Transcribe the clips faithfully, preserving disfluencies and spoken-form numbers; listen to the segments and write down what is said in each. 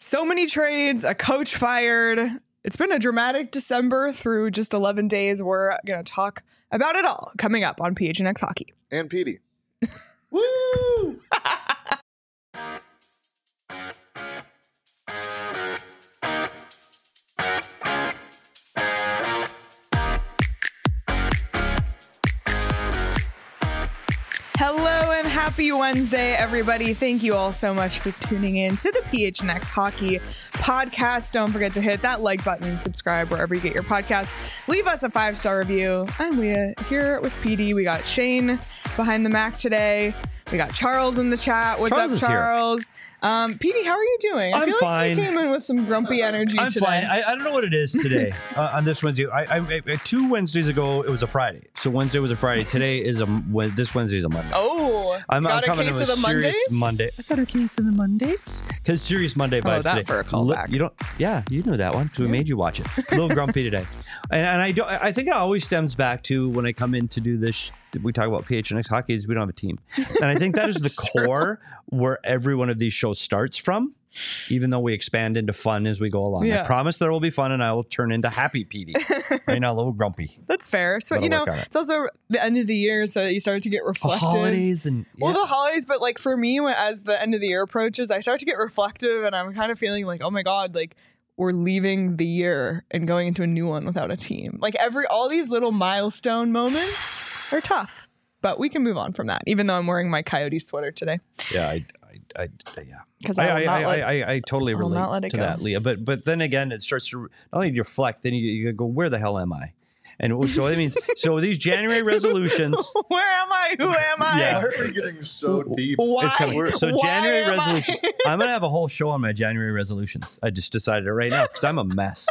So many trades, a coach fired. It's been a dramatic December through just eleven days. We're going to talk about it all coming up on P H N X Hockey. And Petey. Woo! Hello and happy Wednesday, everybody. Thank you all so much for tuning in to the P H N X Hockey podcast. Don't forget to hit that like button and subscribe wherever you get your podcasts. Leave us a five-star review. I'm Leah here with P D. We got Shane behind the Mac today. We got Charles in the chat. What's Charles up, Charles? Um, P D, how are you doing? I I'm feel like fine. you came in with some grumpy energy I'm today. fine. I, I don't know what it is today uh, on this Wednesday. I, I, I two Wednesdays ago, it was a Friday. So Wednesday was a Friday. Today is a this Wednesday is a Monday. Oh, I'm, got I'm coming a in case with of the serious Mondays? Monday. I got a case of the Mondays because serious Monday vibes Oh, that today. for a callback. Li- You don't? Yeah, you knew that one because we made you watch it. A little grumpy today, and, and I don't. I think it always stems back to when I come in to do this. Sh- we talk about P H N X Hockey is we don't have a team, and I think that is the core where every one of these shows starts from. Even though we expand into fun as we go along. Yeah. I promise there will be fun and I will turn into happy P D. Right now, a little grumpy. That's fair. So, Gotta you know, work on it. it's also the end of the year, so you start to get reflective. Holidays and Well, yeah. the holidays, but like for me, when, as the end of the year approaches, I start to get reflective and I'm kind of feeling like, oh my God, like we're leaving the year and going into a new one without a team. Like every, all these little milestone moments are tough, but we can move on from that, even though I'm wearing my Coyote sweater today. yeah, I, I, I, yeah. Because I, I, I, will not I, let- I, I totally I will relate not let it to go. that, Leah. But but then again, it starts to not only do you reflect, then you, you go, where the hell am I? And so that means so these January resolutions. Where am I? Who am I? Yeah. Why are we getting so deep? Why? It's coming. So Why January am I? resolution. I'm gonna have a whole show on my January resolutions. I just decided it right now because I'm a mess.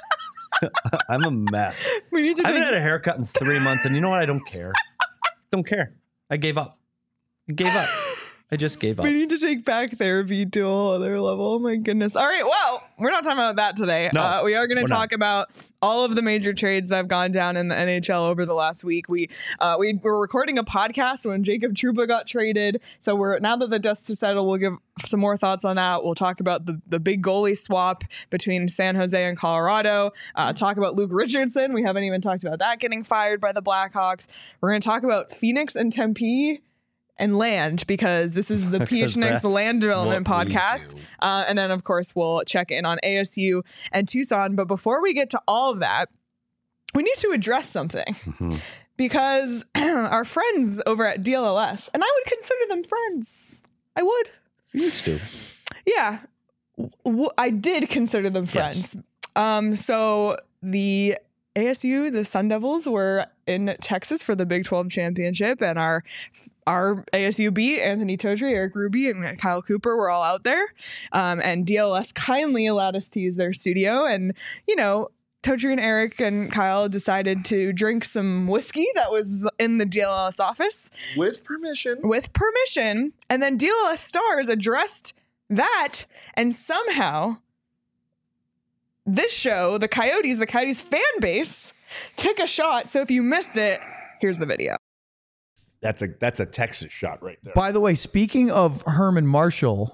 I'm a mess. We need to I haven't take- had a haircut in three months, and you know what? I don't care. Don't care. I gave up. I gave up. I just gave up. We need to take back therapy to a whole other level. Oh my goodness. All right. Well, we're not talking about that today. No, uh, we are going to we're talk not. about all of the major trades that have gone down in the N H L over the last week. We uh, we were recording a podcast when Jacob Trouba got traded. So we're now that the dust has settled, we'll give some more thoughts on that. We'll talk about the, the big goalie swap between San Jose and Colorado. Uh, talk about Luke Richardson. We haven't even talked about that getting fired by the Blackhawks. We're going to talk about Phoenix and Tempe and land, because this is the P H N X That's Land Development what we podcast. do. Uh, and then, of course, we'll check in on A S U and Tucson. But before we get to all of that, we need to address something. Mm-hmm. Because our friends over at D L L S, and I would consider them friends. I would. You used to. Yeah. W- I did consider them friends. Um, so the A S U, the Sun Devils, were in Texas for the Big twelve championship, and our our A S U beat Anthony Totri, Eric Ruby, and Kyle Cooper were all out there. Um, and D L S kindly allowed us to use their studio. And, you know, Totri and Eric and Kyle decided to drink some whiskey that was in the D L L S office With permission. with permission. And then D L L S stars addressed that, and somehow this show, the Coyotes, the Coyotes fan base, took a shot. So if you missed it, here's the video. That's a that's a Texas shot right there. By the way, speaking of Herman Marshall,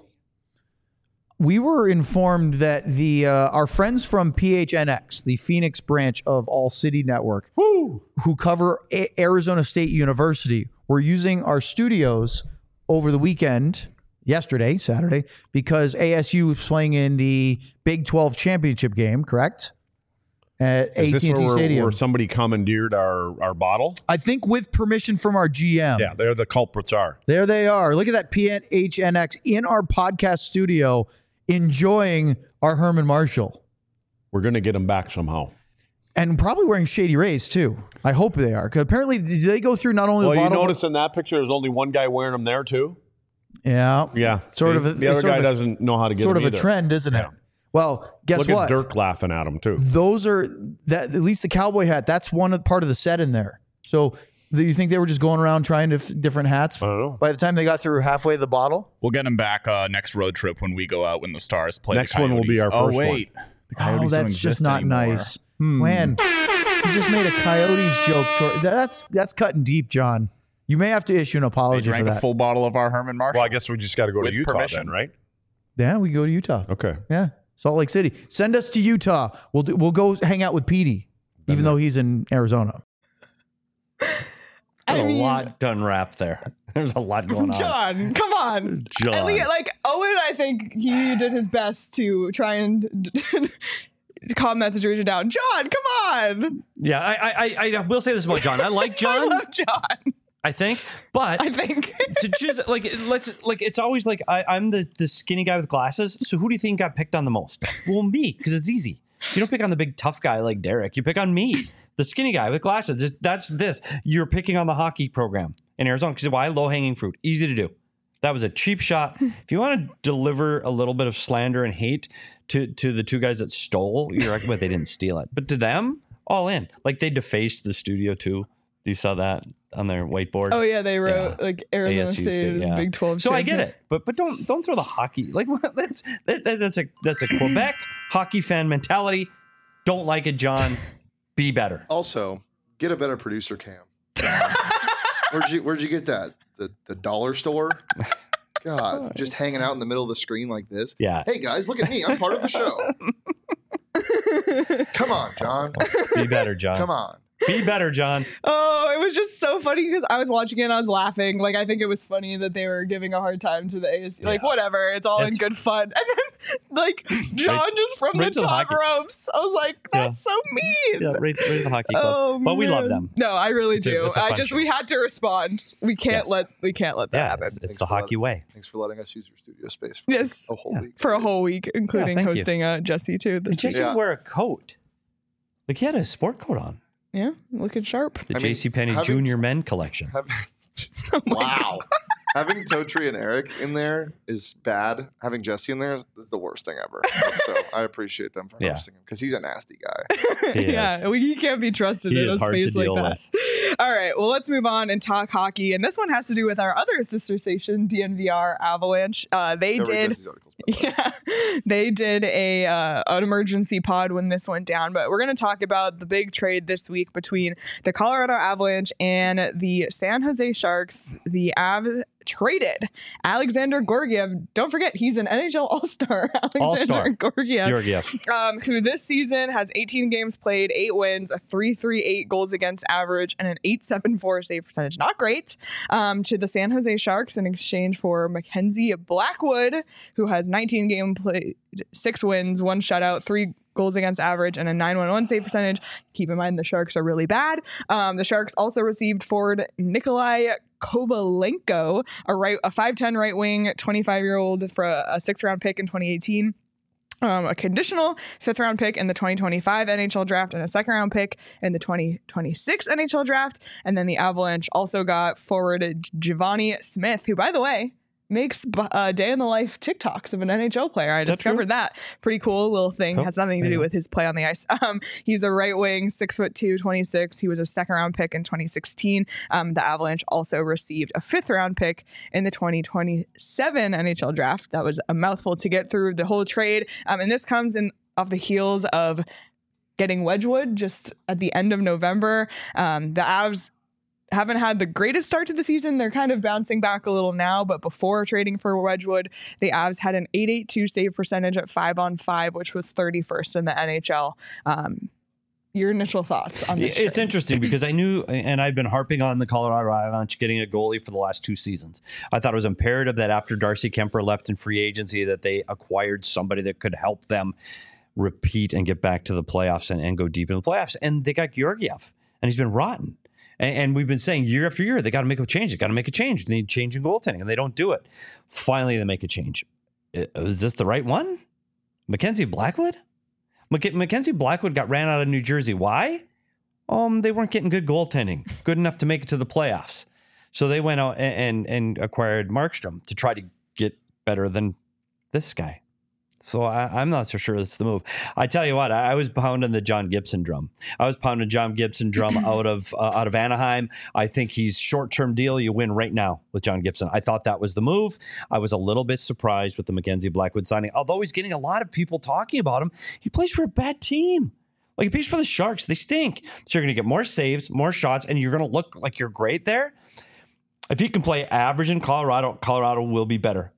we were informed that the uh, our friends from P H N X, the Phoenix branch of All City Network, Woo! who cover A- Arizona State University, were using our studios over the weekend, yesterday, Saturday, because A S U was playing in the Big twelve championship game, correct? At Is this A T and T where, we're- Stadium. where somebody commandeered our, our bottle? I think with permission from our G M. Yeah, there the culprits are. There they are. Look at that P H N X in our podcast studio enjoying our Herman Marshall. We're going to get them back somehow. And probably wearing Shady Rays too. I hope they are. Because apparently do they go through not only Well, the you bottle. notice in that picture there's only one guy wearing them there too? Yeah. Yeah. Sort See? of a- the other sort guy of a- doesn't know how to get Sort of them a either. trend, isn't it? Yeah. Well, guess Look what? at Dirk laughing at him too. Those are that at least the cowboy hat. That's one of, part of the set in there. So do you think they were just going around trying to f- different hats? I don't know. By the time they got through halfway the bottle, We'll get him back uh, next road trip when we go out when the Stars play. Next the one will be Coyotes. our first Oh wait, the Coyotes oh, don't that's just exist not anymore. nice. Hmm. Man, you just made a Coyotes joke. Tor- That's that's cutting deep, John. You may have to issue an They apology for drank a that. full bottle of our Herman Marshall. Well, I guess we just got to go to With Utah permission. then, right? Yeah, we go to Utah. Okay. Yeah, Salt Lake City. Send us to Utah. We'll do, we'll go hang out with Petey, even though he's in Arizona. I There's a mean- lot to unwrap there. There's a lot going on. John, come on. John. At least, like Owen, I think he did his best to try and calm that situation down. John, come on. Yeah, I, I, I, I will say this about John. I like John. I love John. I think, but I think. to choose, like, let's, like, it's always like I, I'm the, the skinny guy with glasses. So who do you think got picked on the most? Well, me, because it's easy. You don't pick on the big tough guy like Derek. You pick on me, the skinny guy with glasses. It's- That's this. You're picking on the hockey program in Arizona because why? Low hanging fruit, easy to do. That was a cheap shot. If you want to deliver a little bit of slander and hate to to the two guys that stole, you're like, well, they didn't steal it, but to them, all in. Like they defaced the studio too. You saw that on their whiteboard. Oh yeah, they wrote Yeah. like Arizona A S U State, State, is yeah. Big twelve. So I get champion. it, but but don't don't throw the hockey like what, that's that, that, that's a that's a Quebec hockey fan mentality. Don't like it, John. Be better. Also, get a better producer cam. where'd you Where'd you get that? The the dollar store? God, just hanging out in the middle of the screen like this. Yeah. Hey guys, look at me. I'm part of the show. Come on, John. Be better, John. Come on. Be better, John. Oh, it was just so funny because I was watching it and I was laughing. Like, I think it was funny that they were giving a hard time to the A S U. Like, Yeah. whatever. It's all in It's- good fun. And then, like, John Right- just from right the to the top hockey. ropes. I was like, that's so mean. Yeah, right, right in the hockey club. Oh, but we love man. them. No, I really It's a- do. it's a I fun just show. we had to respond. We can't Yes. let we can't let that Yeah, happen. it's, it's Thanks the for hockey way. Thanks for letting us use your studio space for Yes. a whole Yeah. week. For a whole week, including thank you. hosting uh, Jesse too. And This week. Jesse Yeah. would wear a coat. Like he had a sport coat on. Yeah, looking sharp. The I mean, JCPenney having- Junior Men collection. Have, Oh my wow. Having Totri and Eric in there is bad. Having Jesse in there is the worst thing ever. So I appreciate them for Yeah. hosting him because he's a nasty guy. He yeah, is. we, he can't be trusted He in is a hard to space like deal that. with. All right, well, let's move on and talk hockey. And this one has to do with our other sister station, D N V R Avalanche. Uh, they Never read did. Jesse's articles, by the way. Yeah, they did a uh, an emergency pod when this went down, but we're going to talk about the big trade this week between the Colorado Avalanche and the San Jose Sharks. The Av traded Alexander Gorgiev. Don't forget, he's an N H L All-Star. All-Star. Alexander Gorgiev, Georgiev. um, who this season has eighteen games played, eight wins, a three three eight goals against average, and an eight seven four save percentage. Not great. Um, to the San Jose Sharks in exchange for Mackenzie Blackwood, who has nineteen game played, six wins, one shutout, three goals against average, and a nine one one save percentage. Keep in mind the Sharks are really bad. Um, the Sharks also received forward Nikolai Kovalenko, a right, a five ten right wing, twenty-five year old for a, a six round pick in twenty eighteen. Um, a conditional fifth round pick in the twenty twenty-five N H L draft and a second round pick in the twenty twenty-six N H L draft. And then the Avalanche also got forward Giovanni Smith, who, by the way, makes uh, day in the life TikToks of an N H L player. I that discovered true? that. Pretty cool little thing. Oh, Has nothing to there do you go. with his play on the ice. Um, he's a right wing, six foot two, twenty-six. He was a second round pick in twenty sixteen. Um, the Avalanche also received a fifth round pick in the twenty twenty-seven N H L draft. That was a mouthful to get through the whole trade. Um, and this comes in off the heels of getting Wedgwood just at the end of November. Um, the Avs haven't had the greatest start to the season. They're kind of bouncing back a little now, but before trading for Wedgwood, the Avs had an eight eighty-two save percentage at five on five, which was thirty-first in the N H L. Um, your initial thoughts on this? It's trade? interesting because I knew, and I've been harping on the Colorado Avalanche getting a goalie for the last two seasons. I thought it was imperative that after Darcy Kemper left in free agency that they acquired somebody that could help them repeat and get back to the playoffs and, and go deep in the playoffs. And they got Georgiev, and he's been rotten. And, and we've been saying year after year, they got to make a change. They got to make a change. They need change in goaltending, and they don't do it. Finally, they make a change. I- Is this the right one? Mackenzie Blackwood? Mac- Mackenzie Blackwood got ran out of New Jersey. Why? Um, they weren't getting good goaltending, good enough to make it to the playoffs. So they went out and, and, and acquired Markstrom to try to get better than this guy. So I, I'm not so sure that's the move. I tell you what, I, I was pounding the John Gibson drum. I was pounding John Gibson drum out of uh, out of Anaheim. I think he's short-term deal. You win right now with John Gibson. I thought that was the move. I was a little bit surprised with the Mackenzie Blackwood signing, although he's getting a lot of people talking about him. He plays for a bad team. Like, he plays for the Sharks. They stink. So you're going to get more saves, more shots, and you're going to look like you're great there. If he can play average in Colorado, Colorado will be better.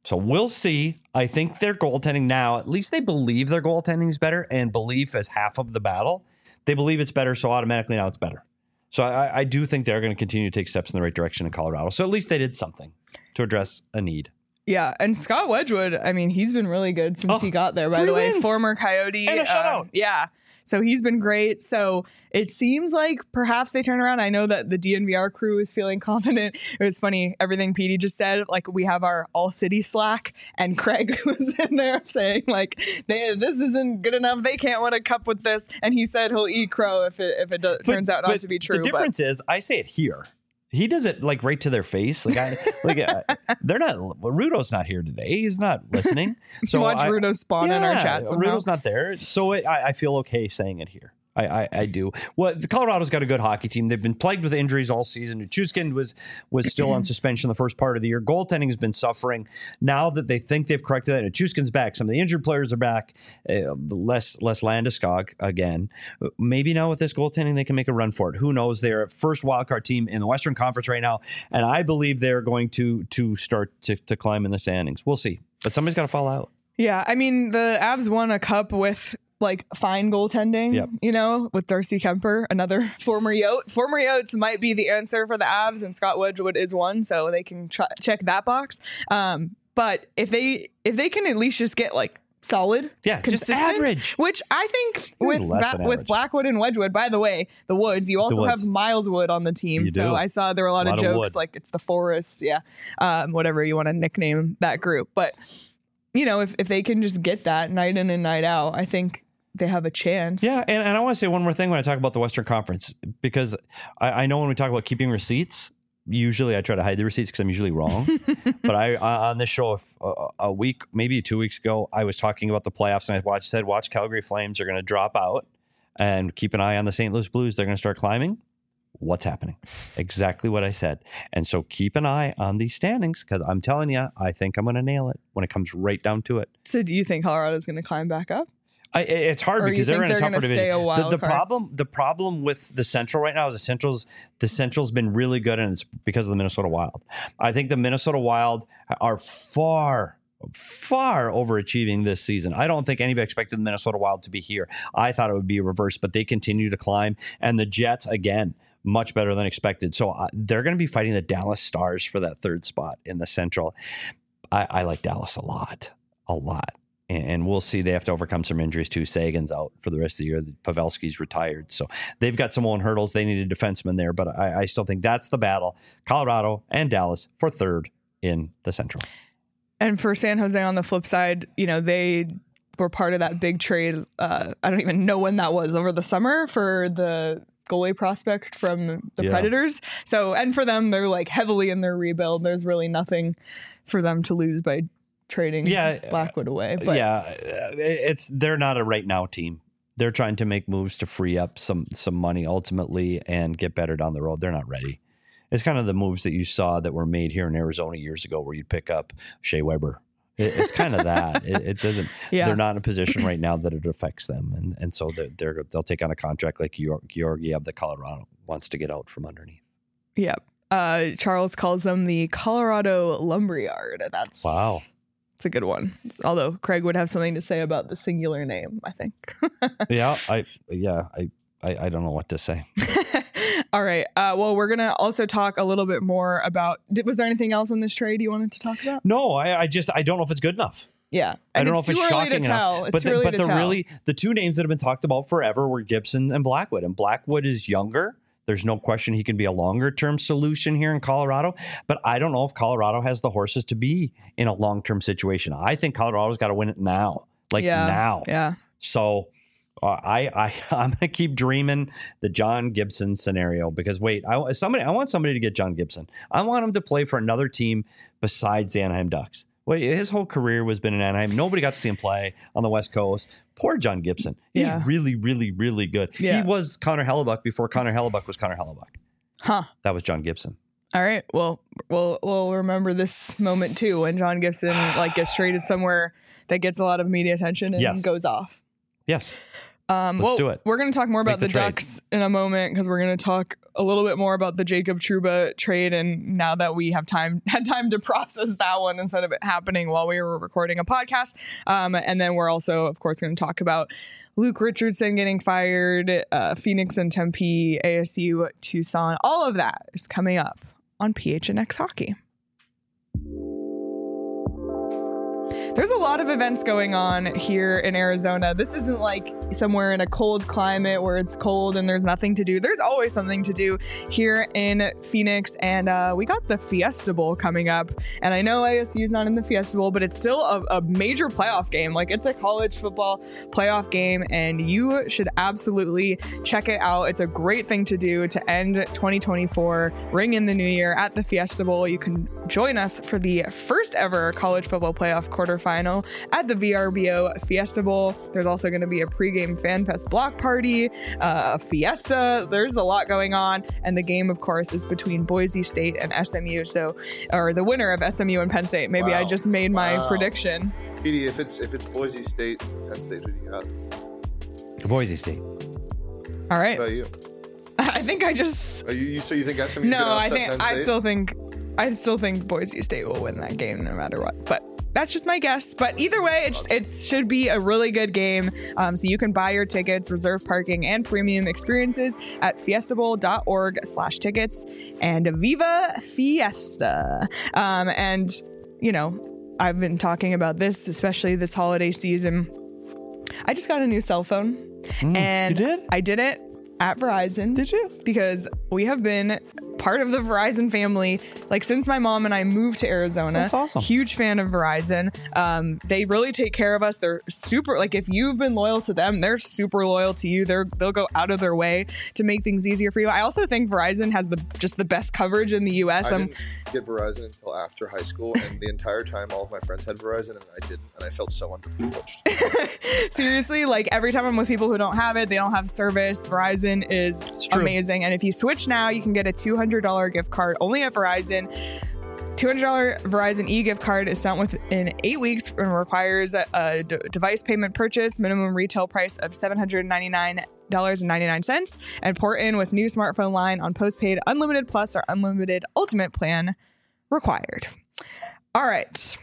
So we'll see. I think their goaltending now, at least they believe their goaltending is better, and belief is half of the battle. They believe it's better, so automatically now it's better. So I, I do think they're going to continue to take steps in the right direction in Colorado. So at least they did something to address a need. Yeah, and Scott Wedgwood, I mean, he's been really good since Oh, he got there, by three the way. wins. Former Coyote. And a shutout. Um, yeah. So he's been great. So it seems like perhaps they turn around. I know that the D N V R crew is feeling confident. It was funny, everything Petey just said. Like, we have our all city Slack, and Craig was in there saying, like, they, this isn't good enough. They can't win a cup with this. And he said he'll eat crow if it if it do, turns out not to be true. The difference but. is, I say it here. He does it like right to their face. Like, I, like uh, they're not. Rudo's not here today. He's not listening. So Watch I, Rudo spawn yeah, in our chat somehow. Rudo's not there, so it, I, I feel okay saying it here. I, I, I do. Well, the Colorado's got a good hockey team. They've been plagued with injuries all season. Nichushkin was was still on suspension the first part of the year. Goaltending has been suffering. Now that they think they've corrected that, Nichushkin's back. Some of the injured players are back. Uh, less less Landeskog again. Maybe now with this goaltending, they can make a run for it. Who knows? They're a first wildcard team in the Western Conference right now, and I believe they're going to to start to, to climb in the standings. We'll see, but somebody's got to fall out. Yeah, I mean, the Avs won a cup with like fine goaltending, Yep. you know, with Darcy Kemper, another former Yote. Former Yotes might be the answer for the Avs, and Scott Wedgwood is one, so they can try, check that box. Um, but if they if they can at least just get like solid, Yeah, just consistent, average. which I think He's with less Ba- than with average. Blackwood and Wedgwood. By the way, the Woods, you also Woods. have Miles Wood on the team, You so do. I saw there were a lot, A lot of of jokes wood. like it's the forest, yeah, um, whatever you want to nickname that group, but. You know, if, if they can just get that night in and night out, I think they have a chance. Yeah, and, and I want to say one more thing when I talk about the Western Conference, because I, I know when we talk about keeping receipts, usually I try to hide the receipts because I'm usually wrong. But I uh, on this show if, uh, a week, maybe two weeks ago, I was talking about the playoffs, and I watched, said, watch Calgary Flames are going to drop out, and keep an eye on the Saint Louis Blues. They're going to start climbing. What's happening? Exactly what I said. And so keep an eye on these standings, because I'm telling you, I think I'm going to nail it when it comes right down to it. So do you think Colorado's going to climb back up? I, it's hard Or you because they're think in a they're tougher gonna division. stay a The, wild the card? problem, the problem with the Central right now is the Central's the Central's been really good, and it's because of the Minnesota Wild. I think the Minnesota Wild are far, far overachieving this season. I don't think anybody expected the Minnesota Wild to be here. I thought it would be reversed, but they continue to climb, and the Jets again. Much better than expected. So uh, they're going to be fighting the Dallas Stars for that third spot in the Central. I, I like Dallas a lot, a lot. And, and we'll see. They have to overcome some injuries too. Sagan's out for the rest of the year. Pavelski's retired. So they've got some own hurdles. They need a defenseman there. But I, I still think that's the battle. Colorado and Dallas for third in the Central. And for San Jose on the flip side, you know, they were part of that big trade. Uh, I don't even know when that was, over the summer for the goalie prospect from the Yeah. Predators. So, and for them, they're like heavily in their rebuild. There's really nothing for them to lose by trading Yeah, Blackwood away. But yeah, uh, it's they're not a right now team. They're trying to make moves to free up some some money ultimately and get better down the road. They're not ready. It's kind of the moves that you saw that were made here in Arizona years ago, where you'd pick up Shea Weber. It, it's kind of that. It, it doesn't. Yeah. They're not in a position right now that it affects them, and and so they're, they're they'll take on a contract like Georg- Georgiev that Colorado wants to get out from underneath. yeah, uh, Charles calls them the Colorado Lumberyard. That's Wow. It's a good one. Although Craig would have something to say about the singular name, I think. Yeah, I yeah I, I I don't know what to say. All right. Uh, well, we're going to also talk a little bit more about, did, was there anything else in this trade you wanted to talk about? No, I, I just I don't know if it's good enough. Yeah. I And don't know if too it's early shocking to tell. enough. It's but too the, early but to the tell. really the two names that have been talked about forever were Gibson and Blackwood. And Blackwood is younger. There's no question he can be a longer term solution here in Colorado. But I don't know if Colorado has the horses to be in a long term situation. I think Colorado's got to win it now, like yeah. now. Yeah. So uh, I I I'm gonna keep dreaming the John Gibson scenario, because wait, I somebody I want somebody to get John Gibson. I want him to play for another team besides the Anaheim Ducks. Wait, his whole career was been in Anaheim. Nobody got to see him play on the West Coast. Poor John Gibson. He's Yeah. really, really, really good. Yeah. He was Connor Hellebuck before Connor Hellebuck was Connor Hellebuck. Huh. That was John Gibson. All right. Well, we'll we'll remember this moment too, when John Gibson like gets traded somewhere that gets a lot of media attention and Yes. goes off. Yes. Um, Let's well, do it. We're going to talk more about Make the the, trade. Ducks in a moment because we're going to talk a little bit more about the Jacob Trouba trade. And now that we have time, had time to process that one instead of it happening while we were recording a podcast. Um, and then we're also, of course, going to talk about Luke Richardson getting fired, uh, Phoenix and Tempe, A S U, Tucson. All of that is coming up on P H N X Hockey. There's a lot of events going on here in Arizona. This isn't like somewhere in a cold climate where it's cold and there's nothing to do. There's always something to do here in Phoenix. And uh, we got the Fiesta Bowl coming up. And I know A S U's not in the Fiesta Bowl, but it's still a, a major playoff game. Like, it's a college football playoff game, and you should absolutely check it out. It's a great thing to do to end twenty twenty-four, ring in the new year at the Fiesta Bowl. You can join us for the first ever college football playoff quarterfinal at the V R B O Fiesta Bowl. There's also going to be a pregame Fan Fest block party, uh, a fiesta. There's a lot going on. And the game, of course, is between Boise State and S M U. So, or the winner of S M U and Penn State. Maybe Wow. I just made my Wow. prediction. Petey, if it's if it's Boise State, Penn State, who do you got? Boise State. All right. What about you? I think I just. Are you, you so you think S M U No, could I upset think Penn I State? still think I still think Boise State will win that game no matter what. But that's just my guess. But either way, it, it should be a really good game. Um, so you can buy your tickets, reserve parking, and premium experiences at fiestabowl.org slash tickets. And Viva Fiesta. Um, and, you know, I've been talking about this, especially this holiday season. I just got a new cell phone. Mm, and you did? I did it at Verizon. Did you? Because we have been part of the Verizon family, like, since my mom and I moved to Arizona. That's awesome. Huge fan of Verizon. Um, they really take care of us. They're super, like, if you've been loyal to them, they're super loyal to you. They're, they'll go out of their way to make things easier for you. I also think Verizon has the just the best coverage in the U S. I Um, didn't get Verizon until after high school, and the entire time all of my friends had Verizon and I didn't, and I felt so underprivileged. Seriously, like, every time I'm with people who don't have it, they don't have service. Verizon is true. amazing. And if you switch now, you can get a two hundred dollars gift card only at Verizon. two hundred dollars Verizon e-gift card is sent within eight weeks and requires a, a d- device payment purchase, minimum retail price of seven hundred ninety-nine dollars and ninety-nine cents, and port in with new smartphone line on postpaid unlimited plus or unlimited ultimate plan required. All right,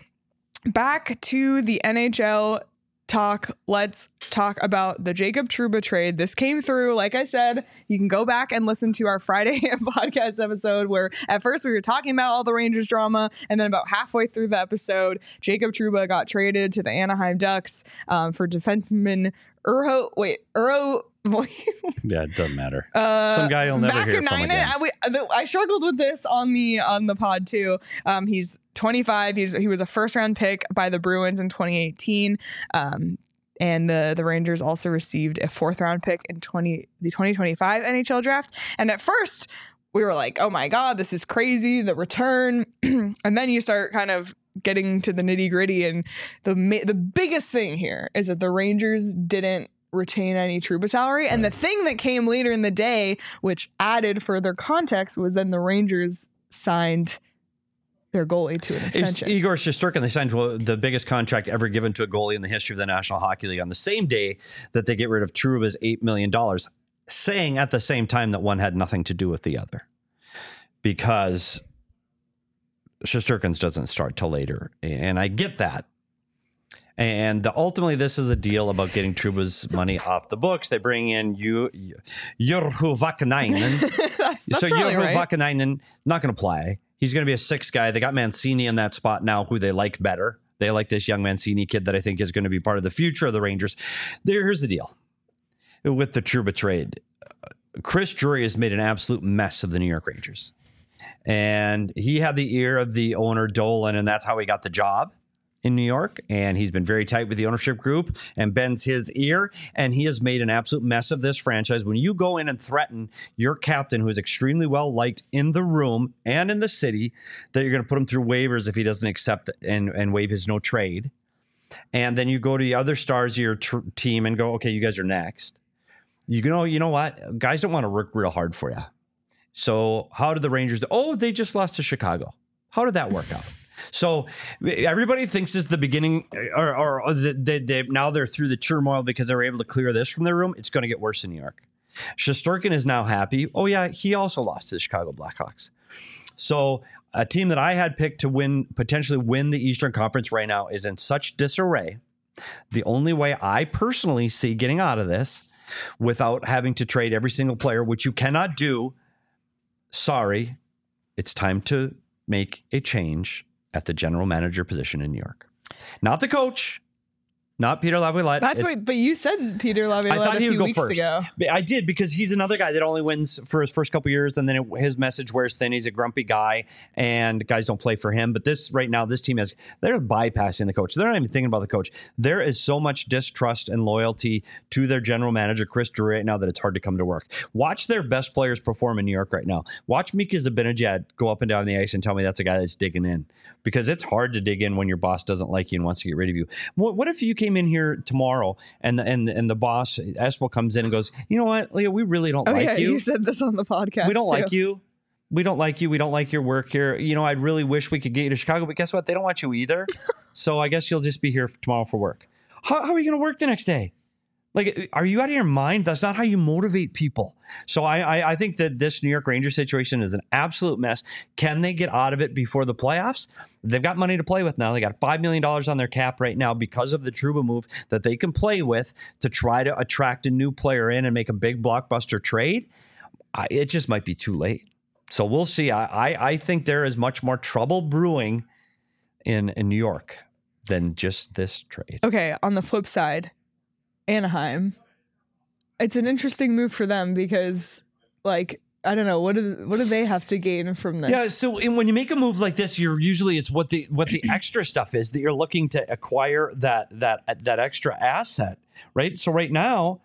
back to the N H L talk. Let's talk about the Jacob Trouba trade. This came through, like I said, you can go back and listen to our Friday podcast episode where at first we were talking about all the Rangers drama, and then about halfway through the episode, Jacob Trouba got traded to the Anaheim Ducks um, for defenseman Urho, wait, Urho, Yeah, it doesn't matter. uh, Some guy you'll never hear from Vakanainen. again. I, we, I struggled with this on the on the pod too. Um, he's twenty-five. He's he was a first round pick by the Bruins in twenty eighteen. Um, and the the Rangers also received a fourth round pick in twenty the twenty twenty-five N H L draft. And at first we were like, oh my God, this is crazy, the return. And then you start kind of getting to the nitty gritty. And the ma- the biggest thing here is that the Rangers didn't retain any Trouba salary. And the thing that came later in the day, which added further context, was then the Rangers signed their goalie to an It's extension. Igor Shesterkin. They signed the biggest contract ever given to a goalie in the history of the National Hockey League on the same day that they get rid of Trouba's eight million dollars, saying at the same time that one had nothing to do with the other because Shesterkin's doesn't start till later. And I get that. And the, ultimately, this is a deal about getting Trouba's money off the books. They bring in you, Urho Vakanainen. that's that's so really Urho right. Vakanainen not going to play. He's going to be a sixth guy. They got Mancini in that spot now, who they like better. They like this young Mancini kid that I think is going to be part of the future of the Rangers. There, here's the deal with the Trouba trade. Chris Drury has made an absolute mess of the New York Rangers. And he had the ear of the owner, Dolan, and that's how he got the job in New York. And he's been very tight with the ownership group and bends his ear. And he has made an absolute mess of this franchise. When you go in and threaten your captain, who is extremely well liked in the room and in the city, that you're going to put him through waivers if he doesn't accept and, and waive his no trade. And then you go to the other stars of your tr- team and go, okay, you guys are next. You know, you know what? Guys don't want to work real hard for you. So how did the Rangers do? Oh, they just lost to Chicago. How did that work out? So everybody thinks it's the beginning, or, or, or they, they, now they're through the turmoil because they were able to clear this from their room. It's going to get worse in New York. Shesterkin is now happy. Oh, yeah, he also lost to the Chicago Blackhawks. So a team that I had picked to win, potentially win the Eastern Conference right now is in such disarray. The only way I personally see getting out of this without having to trade every single player, which you cannot do, sorry, it's time to make a change at the general manager position in New York. Not the coach. Not Peter Laviolette. That's what, but you said Peter Laviolette I thought a he few would go weeks first. ago. I did, because he's another guy that only wins for his first couple years, and then it, his message wears thin. He's a grumpy guy, and guys don't play for him. But this right now, this team has they're bypassing the coach. They're not even thinking about the coach. There is so much distrust and loyalty to their general manager, Chris Drury, right now that it's hard to come to work. Watch their best players perform in New York right now. Watch Mika Zibanejad go up and down the ice and tell me that's a guy that's digging in, because it's hard to dig in when your boss doesn't like you and wants to get rid of you. What, what if you came in here tomorrow and the, and and the boss Espel comes in and goes, you know what, Leah, we really don't Oh like yeah, you. you said this on the podcast. We don't too. like you. We don't like you. We don't like your work here. You know, I'd really wish we could get you to Chicago, but guess what? They don't want you either. So I guess you'll just be here tomorrow for work. How, how are you going to work the next day? Like, are you out of your mind? That's not how you motivate people. So I, I I think that this New York Rangers situation is an absolute mess. Can they get out of it before the playoffs? They've got money to play with now. They got five million dollars on their cap right now because of the Trouba move that they can play with to try to attract a new player in and make a big blockbuster trade. I, it just might be too late. So we'll see. I, I, I think there is much more trouble brewing in, in New York than just this trade. Okay, on the flip side, Anaheim, it's an interesting move for them because, like, I don't know, what do what do they have to gain from this? Yeah, so and when you make a move like this, you're usually it's what the what the extra stuff is that you're looking to acquire that that that extra asset, right? So right now,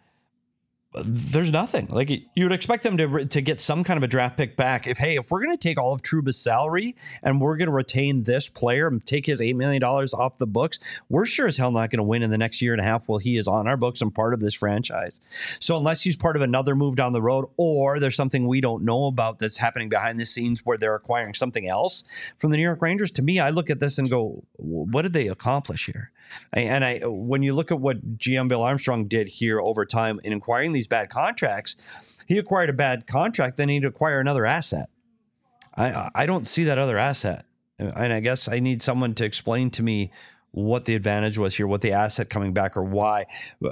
there's nothing. Like, you would expect them to to get some kind of a draft pick back. If hey, if we're going to take all of Trouba's salary and we're going to retain this player and take his eight million dollars off the books, we're sure as hell not going to win in the next year and a half while he is on our books and part of this franchise. So unless he's part of another move down the road, or there's something we don't know about that's happening behind the scenes where they're acquiring something else from the New York Rangers, to me, I look at this and go, what did they accomplish here? And I, when you look at what G M Bill Armstrong did here over time in acquiring these bad contracts, he acquired a bad contract, then he'd acquire another asset. I I don't see that other asset. And I guess I need someone to explain to me what the advantage was here, what the asset coming back, or why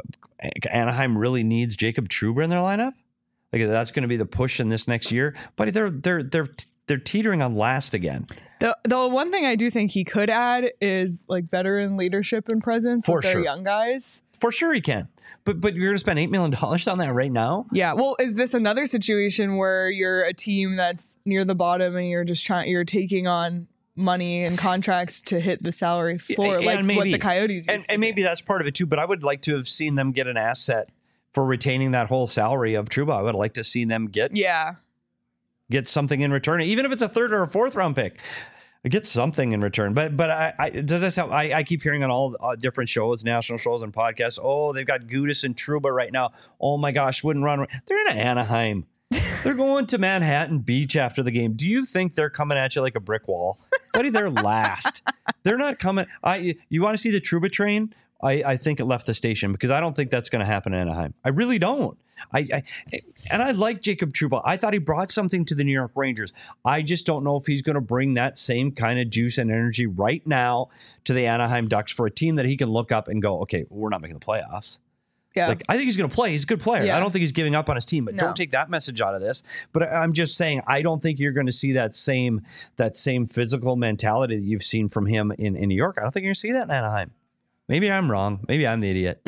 Anaheim really needs Jacob Trouba in their lineup. Like, that's going to be the push in this next year. But they're they're they're they're teetering on last again. The the one thing I do think he could add is like veteran leadership and presence For with their sure. young guys. For sure he can. But but you're going to spend eight million dollars on that right now? Yeah. Well, is this another situation where you're a team that's near the bottom and you're just trying, you're taking on money and contracts to hit the salary floor, And like maybe- what the Coyotes used And, to and maybe that's part of it too. But I would like to have seen them get an asset for retaining that whole salary of Trouba. I would like to see them get do. Yeah. get something in return, even if it's a third or a fourth round pick. Get something in return. But but I, I does that sound? I, I keep hearing on all uh, different shows, national shows and podcasts. Oh, they've got Gudas and Trouba right now. Oh my gosh, wouldn't run. They're in Anaheim. They're going to Manhattan Beach after the game. Do you think they're coming at you like a brick wall, buddy? They're last. They're not coming. I you want to see the Trouba train? I, I think it left the station, because I don't think that's going to happen in Anaheim. I really don't. I, I and I like Jacob Trouba. I thought he brought something to the New York Rangers. I just don't know if he's going to bring that same kind of juice and energy right now to the Anaheim Ducks for a team that he can look up and go, okay, we're not making the playoffs. Yeah. Like, I think he's going to play. He's a good player. Yeah. I don't think he's giving up on his team, but No. don't take that message out of this. But I- I'm just saying, I don't think you're going to see that same that same physical mentality that you've seen from him in, in New York. I don't think you're going to see that in Anaheim. Maybe I'm wrong. Maybe I'm the idiot.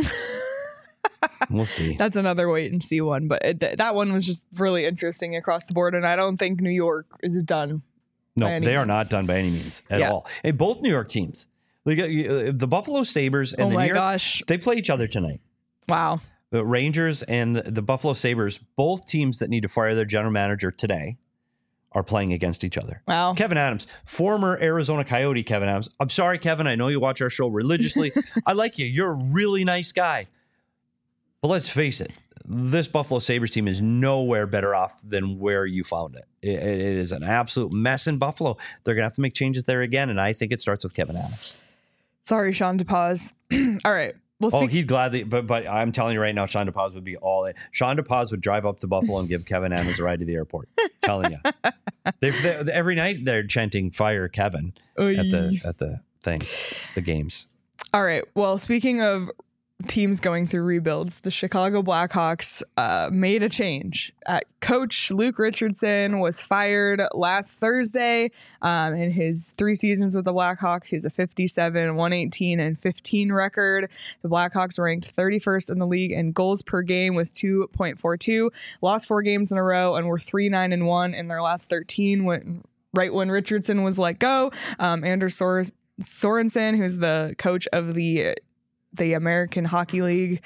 We'll see. That's another wait and see one, but it, th- that one was just really interesting across the board, and I don't think New York is done. No, by any they are means. not done by any means at Yeah. all. And both New York teams, like, uh, the Buffalo Sabres and Oh the my New York, gosh. they play each other tonight. Wow. The Rangers and the, the Buffalo Sabres, both teams that need to fire their general manager today, are playing against each other. Wow. Kevin Adams, former Arizona Coyote Kevin Adams. I'm sorry, Kevin. I know you watch our show religiously. I like you. You're a really nice guy. But let's face it, this Buffalo Sabres team is nowhere better off than where you found it. It, it is an absolute mess in Buffalo. They're going to have to make changes there again, and I think it starts with Kevyn Adams. Sorry, Sean DePaz. All right. We'll Oh, speak- he'd gladly, but but I'm telling you right now, Sean DePaz would be all in. Sean DePaz would drive up to Buffalo and give Kevyn Adams a ride to the airport. Telling you, they, they, every night they're chanting "Fire Kevin" at the at the thing, the games. All right. Well, speaking of teams going through rebuilds, the Chicago Blackhawks uh, made a change. Uh, Coach Luke Richardson was fired last Thursday. Um, in his three seasons with the Blackhawks, he has a fifty-seven, one eighteen, and fifteen record. The Blackhawks ranked thirty-first in the league in goals per game with two point four two. Lost four games in a row and were three nine and one in their last thirteen. When right when Richardson was let go, um, Anders Sor- Sorensen, who's the coach of the the American Hockey League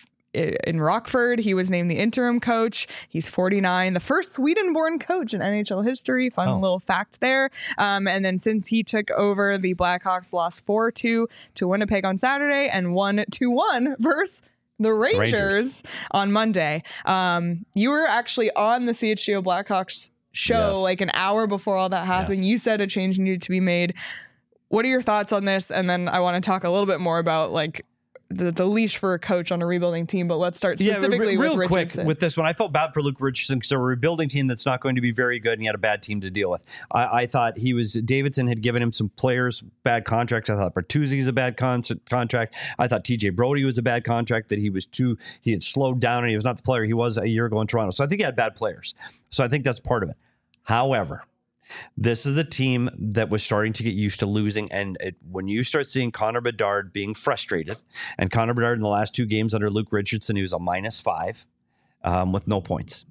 in Rockford, he was named the interim coach. He's forty-nine, the first Sweden-born coach in N H L history. Fun Oh. little fact there. Um, and then since he took over, the Blackhawks lost four two to Winnipeg on Saturday and won two one versus the Rangers, Rangers. on Monday. Um, you were actually on the C H G O Blackhawks show Yes. like an hour before all that happened. Yes. You said a change needed to be made. What are your thoughts on this? And then I want to talk a little bit more about like the, the leash for a coach on a rebuilding team. But let's start specifically yeah, re- real with quick Richardson. with this one. I felt bad for Luke Richardson because they're a rebuilding team that's not going to be very good, and he had a bad team to deal with. I, I thought he was Davidson had given him some players bad contracts. I thought Bertuzzi's a bad con- contract. I thought T J Brody was a bad contract. That he was too he had slowed down and he was not the player he was a year ago in Toronto. So I think he had bad players. So I think that's part of it. However, this is a team that was starting to get used to losing. And it, when you start seeing Connor Bedard being frustrated, and Connor Bedard in the last two games under Luke Richardson, he was a minus five um, with no points.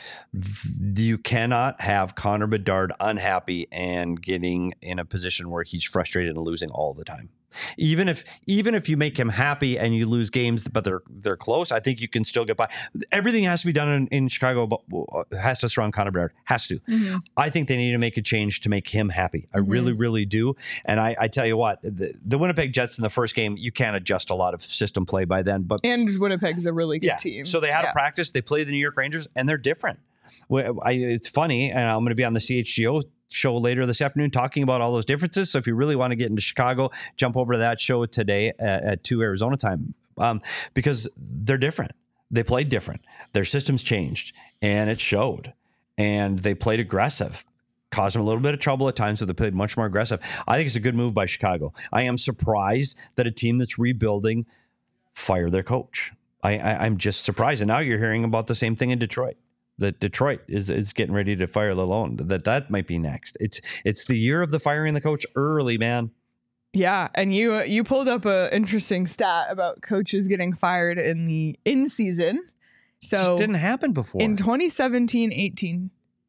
You cannot have Connor Bedard unhappy and getting in a position where he's frustrated and losing all the time. Even if even if you make him happy and you lose games, but they're they're close, I think you can still get by. Everything has to be done in, in Chicago, but has to surround Connor Bedard. Has to. Mm-hmm. I think they need to make a change to make him happy. I mm-hmm. really, really do. And I, I tell you what, the, the Winnipeg Jets in the first game, you can't adjust a lot of system play by then. But and Winnipeg's a really good yeah, team. So they had yeah. a practice. They played the New York Rangers, and they're different. Well, I, it's funny, and I'm going to be on the C H G O show later this afternoon talking about all those differences. So if you really want to get into Chicago, jump over to that show today at, at two Arizona time, um, because they're different. They played different. Their systems changed, and it showed. And they played aggressive. Caused them a little bit of trouble at times, but they played much more aggressive. I think it's a good move by Chicago. I am surprised that a team that's rebuilding fire their coach. I, I, I'm just surprised. And now you're hearing about the same thing in Detroit. That Detroit is, is getting ready to fire Lalonde. That that might be next. It's it's the year of the firing the coach early, man. Yeah, and you you pulled up an interesting stat about coaches getting fired in the in season. So it just didn't happen before. In twenty seventeen eighteen,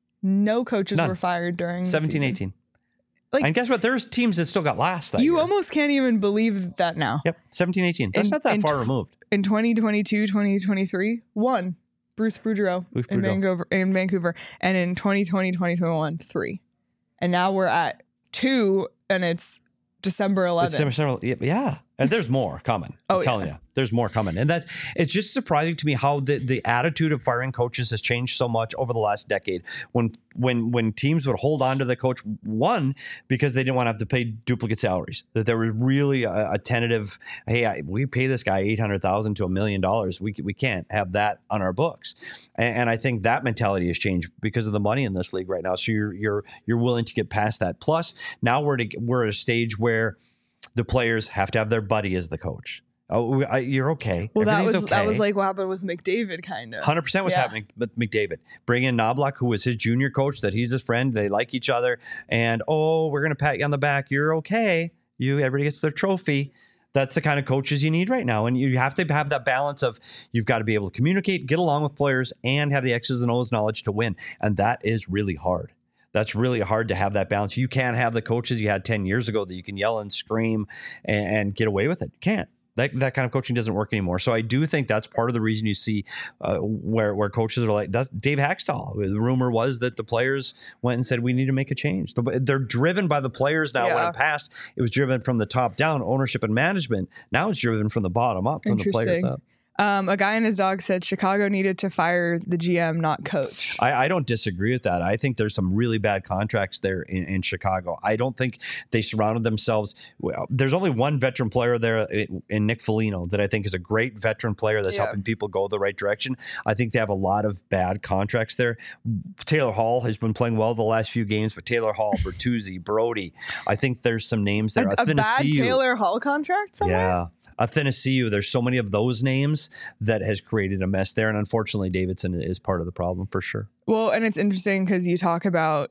no coaches None. were fired during seventeen season. eighteen. Like, and guess what? There's teams that still got last that you year. almost can't even believe that now. Yep, seventeen eighteen. That's In- not that in far tw- removed. In twenty twenty-two, twenty twenty-three, one. Bruce Boudreau Bruce in Boudreau. Vancouver, in Vancouver, and in twenty twenty, twenty twenty-one, three, and now we're at two, and it's December eleventh. December several, yeah, and there's more coming. Oh, I'm telling yeah. you, there's more coming, and that's it's just surprising to me how the, the attitude of firing coaches has changed so much over the last decade. When when when teams would hold on to the coach, one because they didn't want to have to pay duplicate salaries, that there was really a, a tentative, hey, I, we pay this guy eight hundred thousand to a million dollars, we we can't have that on our books, and, and I think that mentality has changed because of the money in this league right now. So you're you're you're willing to get past that. Plus, now we're to, we're at a stage where the players have to have their buddy as the coach. Oh, I, you're okay. Well, that was Everything's okay. that was like what happened with McDavid, kind of. one hundred percent what's Yeah. happening with McDavid. Bring in Knobloch, who was his junior coach, that he's his friend. They like each other. And, oh, we're going to pat you on the back. You're okay. You Everybody gets their trophy. That's the kind of coaches you need right now. And you have to have that balance of you've got to be able to communicate, get along with players, and have the X's and O's knowledge to win. And that is really hard. That's really hard to have that balance. You can't have the coaches you had ten years ago that you can yell and scream and, and get away with it. You can't. That that kind of coaching doesn't work anymore. So I do think that's part of the reason you see uh, where where coaches are like that's Dave Haxtell. The rumor was that the players went and said we need to make a change. They're driven by the players now. Yeah. When in past it was driven from the top down, ownership and management. Now it's driven from the bottom up, from the players Interesting. up. Um, a guy and his dog said Chicago needed to fire the G M, not coach. I, I don't disagree with that. I think there's some really bad contracts there in, in Chicago. I don't think they surrounded themselves. Well, there's only one veteran player there in, in Nick Foligno that I think is a great veteran player that's Yeah. helping people go the right direction. I think they have a lot of bad contracts there. Taylor Hall has been playing well the last few games, but Taylor Hall, Bertuzzi, Brody, I think there's some names there. A, a bad Athanasiou. Taylor Hall contract somewhere? Yeah. Athanasiou, there's so many of those names that has created a mess there. And unfortunately, Davidson is part of the problem for sure. Well, and it's interesting because you talk about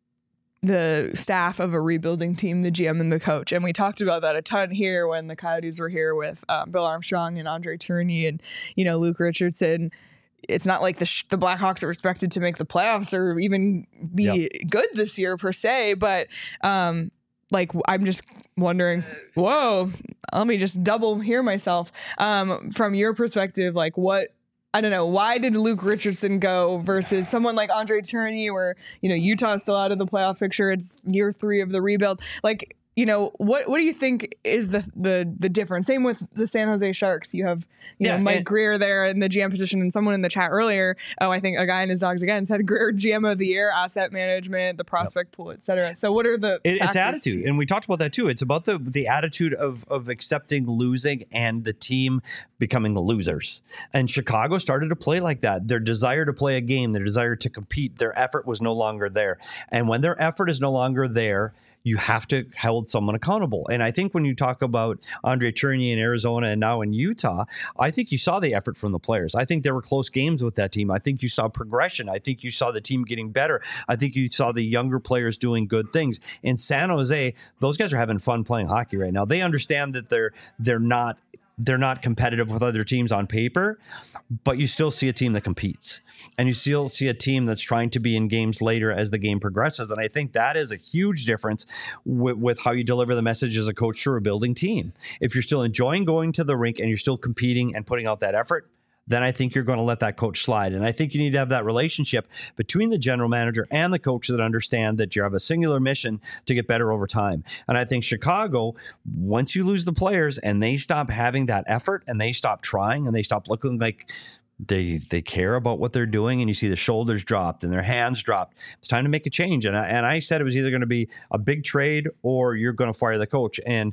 the staff of a rebuilding team, the G M and the coach. And we talked about that a ton here when the Coyotes were here with um, Bill Armstrong and Andre Tourigny and, you know, Luke Richardson. It's not like the sh- the Blackhawks are expected to make the playoffs or even be Yep. good this year per se. But um, like, I'm just wondering, whoa, let me just double hear myself. Um, from your perspective, like what, I don't know, why did Luke Richardson go versus someone like Andre Tourigny where, you know, Utah's still out of the playoff picture. It's year three of the rebuild. Like, you know, what what do you think is the the the difference? Same with the San Jose Sharks. You have, you Yeah, know, Mike and- Greer there in the G M position, and someone in the chat earlier, oh, I think a guy in his dogs again said Greer G M of the year, asset management, the prospect pool, et cetera. So what are the It, it's factors attitude, to- and we talked about that too. It's about the the attitude of of accepting losing and the team becoming the losers. And Chicago started to play like that. Their desire to play a game, their desire to compete, their effort was no longer there. And when their effort is no longer there, you have to hold someone accountable. And I think when you talk about Andre Tourigny in Arizona and now in Utah, I think you saw the effort from the players. I think there were close games with that team. I think you saw progression. I think you saw the team getting better. I think you saw the younger players doing good things. In San Jose, those guys are having fun playing hockey right now. They understand that they're they're not they're not competitive with other teams on paper, but you still see a team that competes. And you still see a team that's trying to be in games later as the game progresses. And I think that is a huge difference with, with how you deliver the message as a coach to a building team. If you're still enjoying going to the rink and you're still competing and putting out that effort, then I think you're going to let that coach slide. And I think you need to have that relationship between the general manager and the coach that understand that you have a singular mission to get better over time. And I think Chicago, once you lose the players and they stop having that effort and they stop trying and they stop looking like they they care about what they're doing, and you see the shoulders dropped and their hands dropped, it's time to make a change. And I, and I said it was either going to be a big trade or you're going to fire the coach. And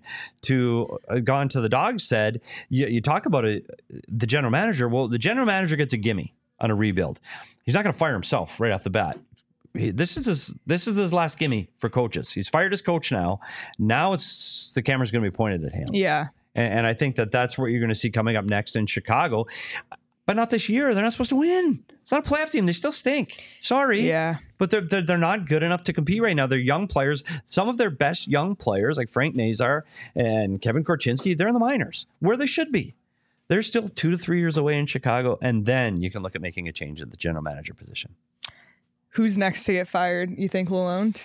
to uh, gone to the Dogs said, you, you talk about it, the general manager. Well, the general manager gets a gimme on a rebuild. He's not going to fire himself right off the bat. He, this is his this is his last gimme for coaches. He's fired his coach now. Now it's the camera's going to be pointed at him. Yeah. And, and I think that that's what you're going to see coming up next in Chicago. But not this year. They're not supposed to win. It's not a playoff team. They still stink. Sorry. Yeah. But they're, they're they're not good enough to compete right now. They're young players. Some of their best young players, like Frank Nazar and Kevin Korchinski, they're in the minors, where they should be. They're still two to three years away in Chicago, and then you can look at making a change at the general manager position. Who's next to get fired, you think, Lalonde?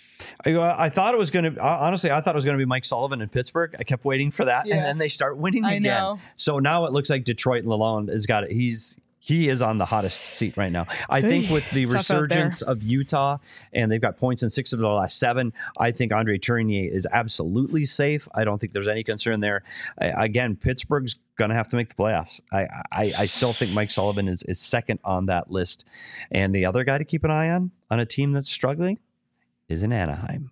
I, I thought it was going to, honestly, I thought it was going to be Mike Sullivan in Pittsburgh. I kept waiting for that, Yeah. and then they start winning I again. know. So now it looks like Detroit Lalonde has got it. He's he is on the hottest seat right now. I think with the It's tough out there. resurgence of Utah, and they've got points in six of the last seven, I think Andre Tourigny is absolutely safe. I don't think there's any concern there. I, again, Pittsburgh's going to have to make the playoffs. I, I I still think Mike Sullivan is is second on that list, and the other guy to keep an eye on on a team that's struggling is in Anaheim.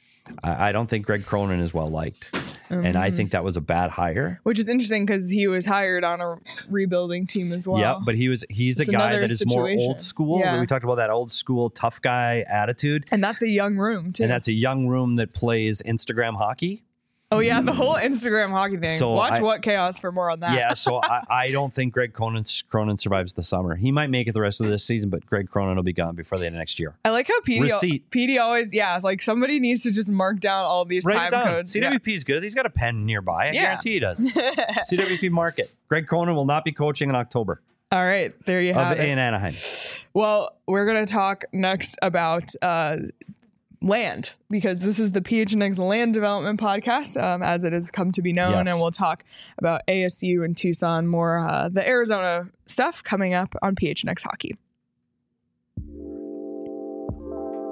I, I don't think Greg Cronin is well liked. And I think that was a bad hire. Which is interesting because he was hired on a rebuilding team as well. Yeah, but he was he's It's a guy another that is more situation. old school. Yeah. We talked about that old school tough guy attitude. And that's a young room, too. And that's a young room that plays Instagram hockey. oh, yeah, the whole Instagram hockey thing. So Watch I- What Chaos for more on that. Yeah, so I, I don't think Greg Cronin, Cronin survives the summer. He might make it the rest of this season, but Greg Cronin will be gone before the end of next year. I like how P D, Receipt. P D always, yeah, like somebody needs to just mark down all these Write it time down. codes. C W P is good. He's got a pen nearby. I Yeah. guarantee he does. C W P market. Greg Cronin will not be coaching in October Yeah. All right, there you have of, it. in Anaheim. Well, we're going to talk next about uh, land because this is the P H N X Land Development Podcast, um, as it has come to be known. Yes. And we'll talk about A S U and Tucson, more uh, the Arizona stuff coming up on P H N X Hockey.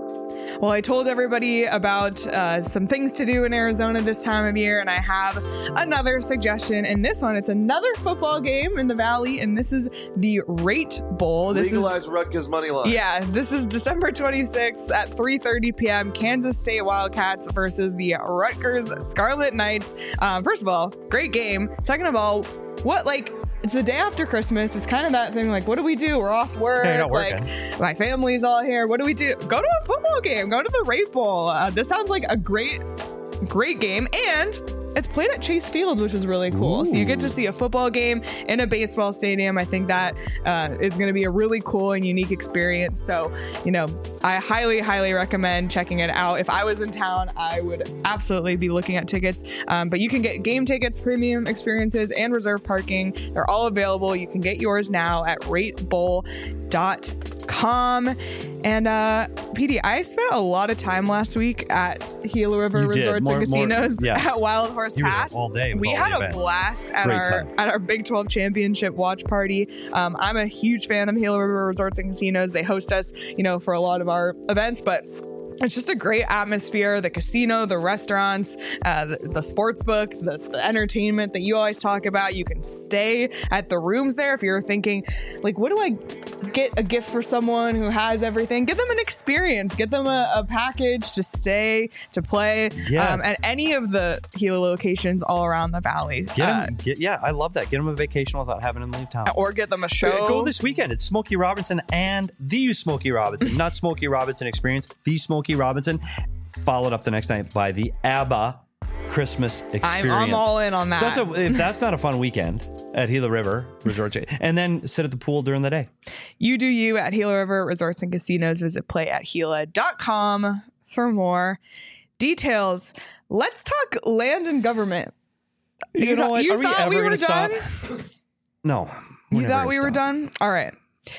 Well, I told everybody about uh, some things to do in Arizona this time of year, and I have another suggestion. And this one, it's another football game in the Valley, and this is the Rate Bowl. This Legalize is, Rutgers money line. Yeah, this is December twenty-sixth at three thirty p.m. Kansas State Wildcats versus the Rutgers Scarlet Knights. Um, first of all, great game. Second of all, what, like, it's the day after Christmas. It's kind of that thing, like, what do we do? We're off work. Yeah, you're not like, working. my family's all here. What do we do? Go to a football game. Go to the Rate Bowl. Uh, this sounds like a great, great game. And it's played at Chase Field, which is really cool. Ooh. So you get to see a football game in a baseball stadium. I think that uh, is going to be a really cool and unique experience. So, you know, I highly, highly recommend checking it out. If I was in town, I would absolutely be looking at tickets. Um, but you can get game tickets, premium experiences, and reserve parking. They're all available. You can get yours now at rate bowl dot com. And uh, P D, I spent a lot of time last week at Gila River You did. Resorts More- and more- Casinos yeah. at Wild Horse You were there Pass. all day with we all had the a events. blast at Great our time. at our Big twelve Championship watch party. Um, I'm a huge fan of Gila River Resorts and Casinos. They host us, you know, for a lot of our events, but it's just a great atmosphere. The casino, the restaurants, uh, the, the sports book, the, the entertainment that you always talk about. You can stay at the rooms there if you're thinking, like, what do I get a gift for someone who has everything? Give them an experience. Get them a, a package to stay, to play Yes. um, at any of the Gila locations all around the valley. Get Uh, 'em- get, yeah, I love that. Get them a vacation without having them leave town. or get them a show. Go this weekend. It's Smokey Robinson and the Smokey Robinson, not Smokey Robinson Experience, the Smokey Robinson, followed up the next night by the ABBA Christmas Experience. I'm, I'm all in on that. That's a, if that's not a fun weekend at Gila River Resort, and then sit at the pool during the day. You do you at Gila River Resorts and Casinos. Visit play at gila dot com for more details. Let's talk land and government. You, You know thought- what? you Are we thought ever we going were to stop? done? No. we're You never thought gonna we were stop. done? All right.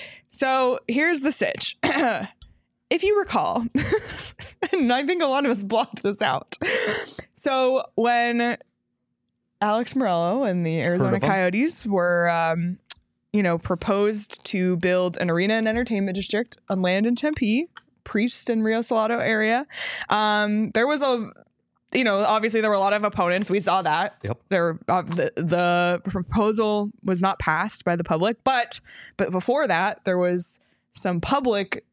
So here's the sitch. If you recall, and I think a lot of us blocked this out. So when Alex Morello and the Arizona of him. Coyotes were, um, you know, proposed to build an arena and entertainment district on land in Tempe, Priest and Rio Salado area, um, there was a, you know, obviously there were a lot of opponents. We saw that. Yep. There, were, uh, the the proposal was not passed by the public, but but before that there was some public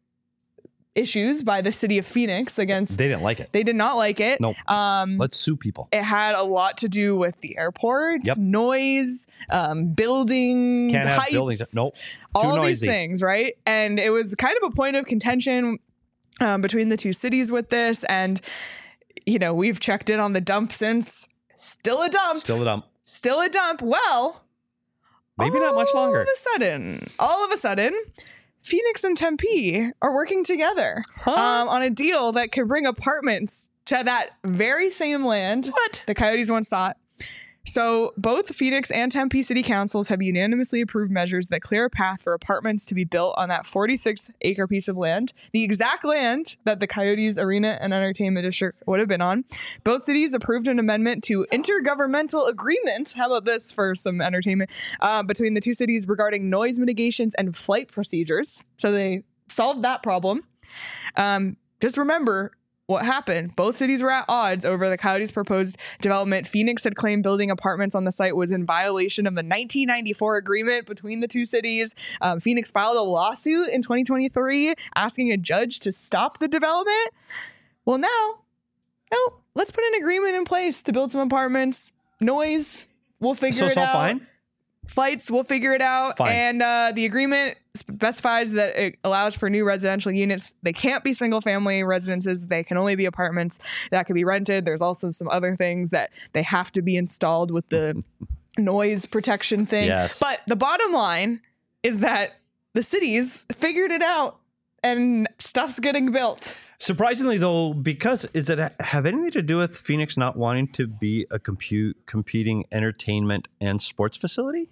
issues by the city of Phoenix against. They didn't like it. They did not like it. Nope. Um, Let's sue people. it had a lot to do with the airport, Yep. noise, um, building Can't have heights, buildings. Nope. Too all noisy. these things, right? And it was kind of a point of contention um, between the two cities with this. And, you know, we've checked in on the dump since. Still a dump. Still a dump. Still a dump. Well, Maybe not much longer. All of a sudden, all of a sudden, Phoenix and Tempe are working together Huh? um, on a deal that could bring apartments to that very same land What? the Coyotes once sought. So both Phoenix and Tempe city councils have unanimously approved measures that clear a path for apartments to be built on that forty-six acre piece of land, the exact land that the Coyotes Arena and Entertainment District would have been on. Both cities approved an amendment to intergovernmental agreement. How about this for some entertainment uh, between the two cities regarding noise mitigations and flight procedures. So they solved that problem. Um, just remember what happened. Both cities were at odds over the Coyotes' proposed development. Phoenix had claimed building apartments on the site was in violation of the nineteen ninety-four agreement between the two cities. Um, Phoenix filed a lawsuit in twenty twenty-three asking a judge to stop the development. Well, now, no, let's put an agreement in place to build some apartments. Noise, we'll figure So it it's all out. fine? Flights, we'll figure it out. Fine. And uh, the agreement specifies that it allows for new residential units. They can't be single family residences. They can only be apartments that can be rented. There's also some other things that they have to be installed with the noise protection thing. Yes. But the bottom line is that the cities figured it out and stuff's getting built. Surprisingly, though, because is it have anything to do with Phoenix not wanting to be a compute competing entertainment and sports facility?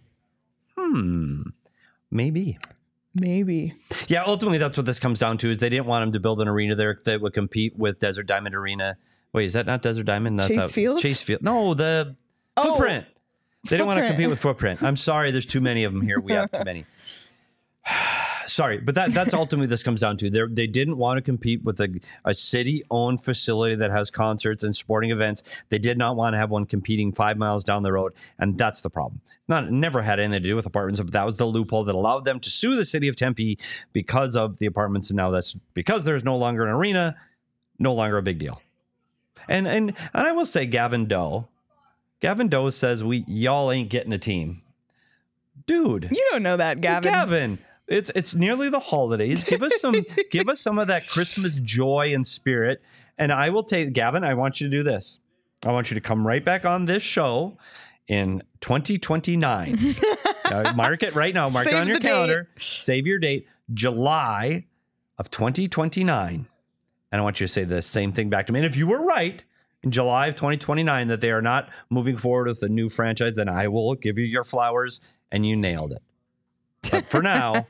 Hmm, maybe. Maybe. Yeah, ultimately, that's what this comes down to. Is they didn't want him to build an arena there that would compete with Desert Diamond Arena. Wait, is that not Desert Diamond? That's Chase how- Field? Chase Field. No, the Oh, Footprint. They didn't want to Footprint. compete with Footprint. I'm sorry, there's too many of them here. We have too many. Sorry, but that that's ultimately this comes down to. They they didn't want to compete with a, a city-owned facility that has concerts and sporting events. They did not want to have one competing five miles down the road, and that's the problem. Not it never had anything to do with apartments, but that was the loophole that allowed them to sue the city of Tempe because of the apartments, and now that's because there's no longer an arena, no longer a big deal. And and and I will say, Gavin Doe, Gavin Doe says we y'all ain't getting a team, dude. You don't know that, Gavin. Gavin. It's it's nearly the holidays. Give us some give us some of that Christmas joy and spirit. And I will take Gavin, I want you to do this. I want you to come right back on this show in twenty twenty-nine. uh, mark it right now. Mark Save it on your the calendar. Save your date. July of twenty twenty-nine. And I want you to say the same thing back to me. And if you were right in July of twenty twenty-nine that they are not moving forward with a new franchise, then I will give you your flowers and you nailed it. But for now,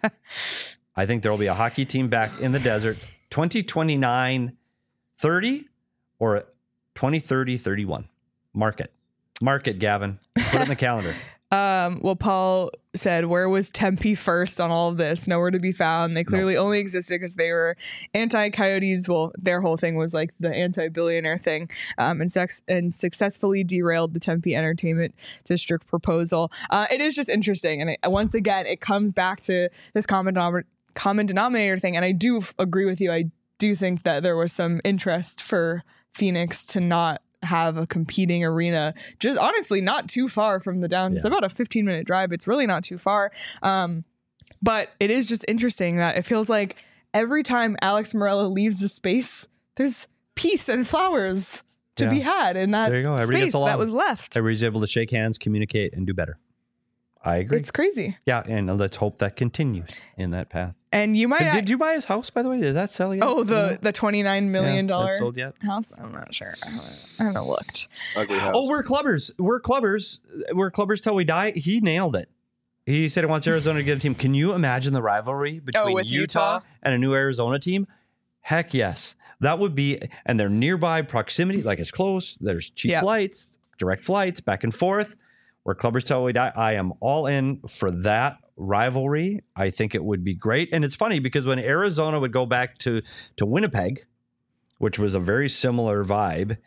I think there will be a hockey team back in the desert, twenty twenty-nine thirty or twenty thirty thirty-one. Mark it. Mark it, Gavin. Put it in the calendar. Um, well, Paul said, where was Tempe first on all of this? Nowhere to be found. They clearly no. only existed because they were anti-coyotes. Well, their whole thing was like the anti-billionaire thing, um, and, sex- and successfully derailed the Tempe Entertainment District proposal. Uh, it is just interesting. And it, once again, it comes back to this common, denom- common denominator thing. And I do f- agree with you. I do think that there was some interest for Phoenix to not have a competing arena, just honestly not too far from the down. Yeah. It's about a fifteen minute drive. It's really not too far. Um, but it is just interesting that it feels like every time Alex Morella leaves the space, there's peace and flowers to yeah. be had in that there you go. space that was left. Everybody's able to shake hands, communicate, and do better. I agree. It's crazy. Yeah, and let's hope that continues in that path. And you might. Did, did you buy his house, by the way? Did that sell yet? Oh, the the twenty nine million dollar yeah, sold yet? house. I'm not sure. I haven't, I haven't looked. Ugly house. Oh, we're clubbers. We're clubbers. We're clubbers till we die. He nailed it. He said he wants Arizona to get a team. Can you imagine the rivalry between oh, Utah, Utah and a new Arizona team? Heck yes. That would be, and they're nearby proximity, like it's close. There's cheap yep. flights, direct flights, back and forth. We're clubbers till we die. I am all in for that rivalry. I think it would be great. And it's funny because when Arizona would go back to, to Winnipeg, which was a very similar vibe,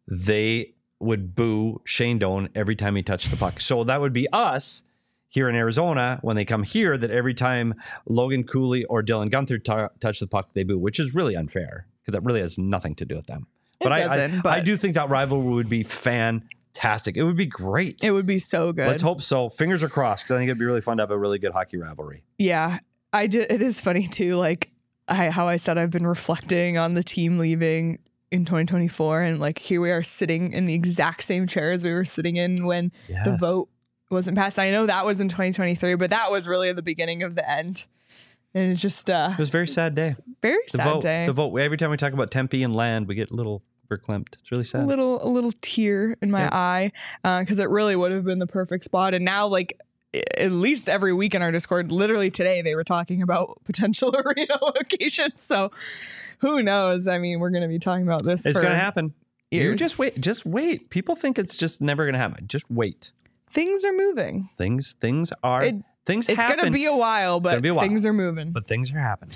they would boo Shane Doan every time he touched the puck. So that would be us here in Arizona when they come here, that every time Logan Cooley or Dylan Gunther t- touch the puck, they boo, which is really unfair because that really has nothing to do with them. It But, I, doesn't, I, but I do think that rivalry would be fantastic. It would be great. It would be so good. Let's hope so. Fingers are crossed because I think it'd be really fun to have a really good hockey rivalry. Yeah, I ju- it is funny too. Like I, how I said, I've been reflecting on the team leaving in twenty twenty-four, and like here we are sitting in the exact same chairs we were sitting in when Yes. the vote wasn't passed. I know that was in twenty twenty-three, but that was really the beginning of the end. And it just uh, It was a very sad day. Very The sad vote, day. the vote. Every time we talk about Tempe and land, we get a little verklempt. It's really a sad. little a little tear in my Yeah. eye because it really would have been the perfect spot. And now, like i- at least every week in our Discord, literally today they were talking about potential arena locations. So who knows? I mean, we're going to be talking about this. It's for going to happen. You years. just wait. Just wait. People think it's just never going to happen. Just wait. Things are moving. Things. Things are. It- things It's happen. going to be a while, but be a while. things are moving. But things are happening.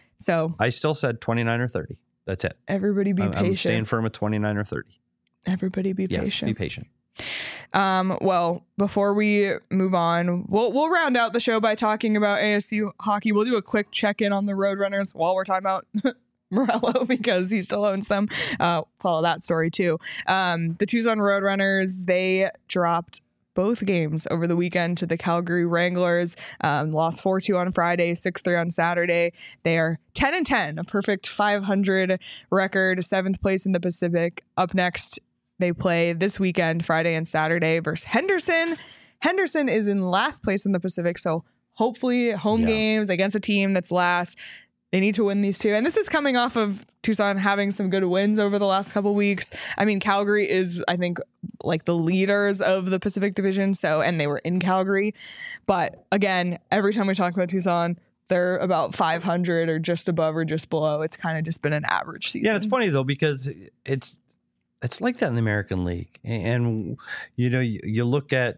So I still said twenty-nine or thirty. That's it. everybody be I'm, I'm patient. staying firm at twenty-nine or thirty. Everybody be Yes. patient. Be patient. Um, well, before we move on, we'll we'll round out the show by talking about A S U hockey. We'll do a quick check-in on the Roadrunners while we're talking about Morello because he still owns them. Uh, follow that story too. Um, the Tucson Roadrunners, they dropped both games over the weekend to the Calgary Wranglers. Um, lost four two on Friday, six three on Saturday. They are ten and ten, a perfect five hundred record, seventh place in the Pacific. Up next, they play this weekend, Friday and Saturday, versus Henderson. Henderson is in last place in the Pacific, so hopefully home Yeah. games against a team that's last. They need to win these two. And this is coming off of Tucson having some good wins over the last couple weeks. I mean, Calgary is, I think, like the leaders of the Pacific Division. So, and they were in Calgary. But again, every time we talk about Tucson, they're about five hundred or just above or just below. It's kind of just been an average season. Yeah, it's funny though because it's it's like that in the American League, and you know you, you look at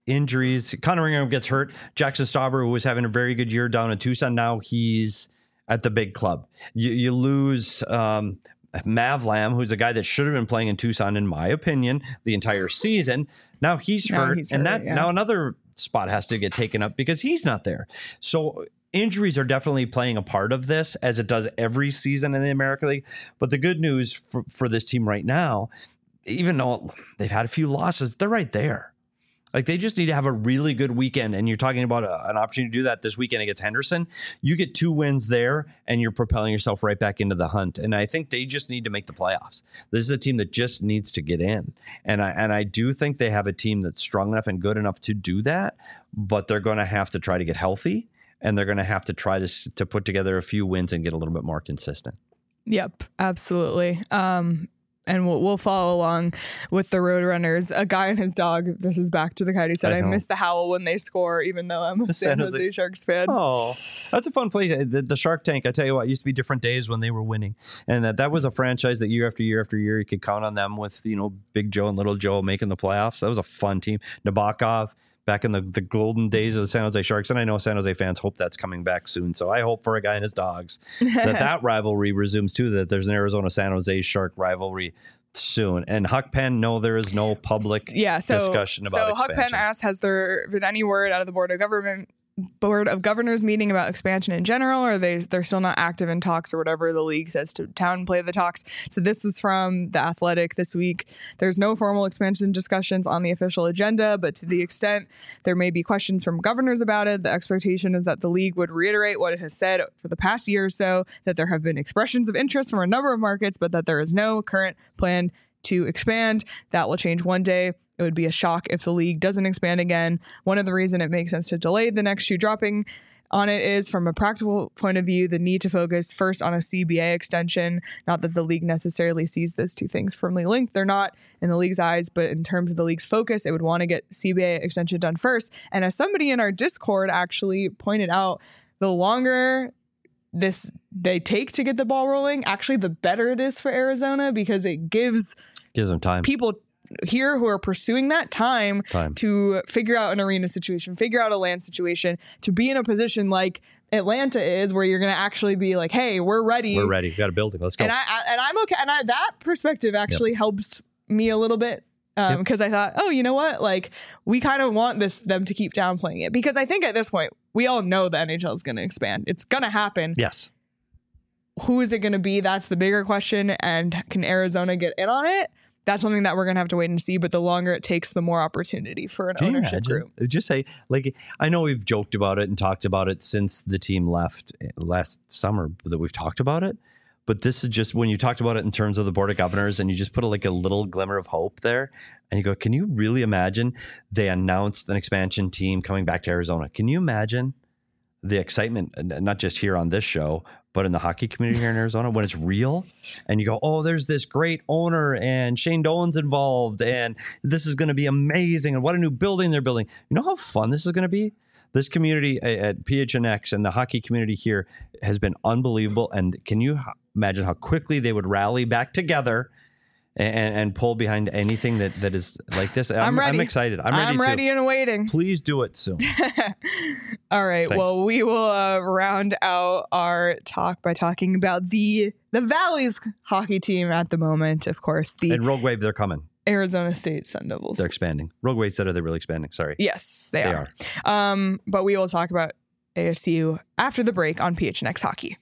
injuries. Connor Ingram gets hurt. Jackson Stauber, who was having a very good year down in Tucson, now he's at the big club. You, you lose um, Mav Lamb, who's a guy that should have been playing in Tucson, in my opinion, the entire season. Now he's Now hurt, he's and hurt, that yeah. now another spot has to get taken up because he's not there. So injuries are definitely playing a part of this, as it does every season in the American League. But the good news for, for this team right now, even though they've had a few losses, they're right there. Like, they just need to have a really good weekend. And you're talking about a, an opportunity to do that this weekend against Henderson. You get two wins there and you're propelling yourself right back into the hunt. And I think they just need to make the playoffs. This is a team that just needs to get in. And I, and I do think they have a team that's strong enough and good enough to do that, but they're going to have to try to get healthy, and they're going to have to try to, to put together a few wins and get a little bit more consistent. Yep, absolutely. Um, and we'll, we'll follow along with the Roadrunners. A guy and his dog. This is back to the Coyote said, I I, know. miss the howl when they score, even though I'm a The San San Jose Jose- Sharks fan. Oh, that's a fun place. The, the Shark Tank, I tell you what, used to be different days when they were winning. And that, that was a franchise that year after year after year, you could count on them with, you know, Big Joe and Little Joe making the playoffs. That was a fun team. Nabokov, back in the, the golden days of the San Jose Sharks. And I know San Jose fans hope that's coming back soon. So I hope for a guy and his dogs that that rivalry resumes too, that there's an Arizona-San Jose Shark rivalry soon. And Huck Penn, no, there is no public yeah, so, discussion about so expansion. Huck Penn asked, has there been any word out of the Board of Government Board of Governors meeting about expansion in general, or are they they're still not active in talks, or whatever the league says to town play the talks? So this is from The Athletic this week. There's no formal expansion discussions on the official agenda, but to the extent there may be questions from governors about it, the expectation is that the league would reiterate what it has said for the past year or so, that there have been expressions of interest from a number of markets, but that there is no current plan to expand. That will change one day. It would be a shock if the league doesn't expand again. One of the reasons it makes sense to delay the next shoe dropping on it is, from a practical point of view, the need to focus first on a C B A extension. Not that the league necessarily sees those two things firmly linked. They're not in the league's eyes, but in terms of the league's focus, it would want to get C B A extension done first. And as somebody in our Discord actually pointed out, the longer this they take to get the ball rolling, actually the better it is for Arizona, because it gives Gives them time. people here who are pursuing that time, Time. to figure out an arena situation, figure out a land situation, to be in a position like Atlanta is, where you're going to actually be like, hey, we're ready. We're ready. We've got a building. Let's go. And I, I and I'm okay. And I, that perspective actually helps me a little bit. Um, because I thought, oh, you know what? Like, we kind of want this them to keep downplaying it, because I think at this point we all know the N H L is going to expand. It's going to happen. Yes. Who is it going to be? That's the bigger question. And can Arizona get in on it? That's something that we're going to have to wait and see. But the longer it takes, the more opportunity for an Can you ownership imagine? group. Just say, like, I know we've joked about it and talked about it since the team left last summer that we've talked about it. But this is just when you talked about it in terms of the Board of Governors, and you just put a, like a little glimmer of hope there, and you go, can you really imagine they announced an expansion team coming back to Arizona? Can you imagine the excitement, not just here on this show, but in the hockey community here in Arizona, when it's real, and you go, oh, there's this great owner and Shane Doan's involved, and this is going to be amazing, and what a new building they're building. You know how fun this is going to be? This community at P H N X and the hockey community here has been unbelievable. And can you imagine how quickly they would rally back together and, and pull behind anything that, that is like this? I'm, I'm ready. I'm excited. I'm ready I'm too. ready and waiting. Please do it soon. All right. Thanks. Well, we will uh, round out our talk by talking about the the Valley's hockey team at the moment. Of course, the And Rogue Wave, they're coming. Arizona State Sun Devils. They're expanding. Rogue Wave said, are they really expanding? Sorry. Yes, they, They are. Um, but we will talk about A S U after the break on P H N X Hockey.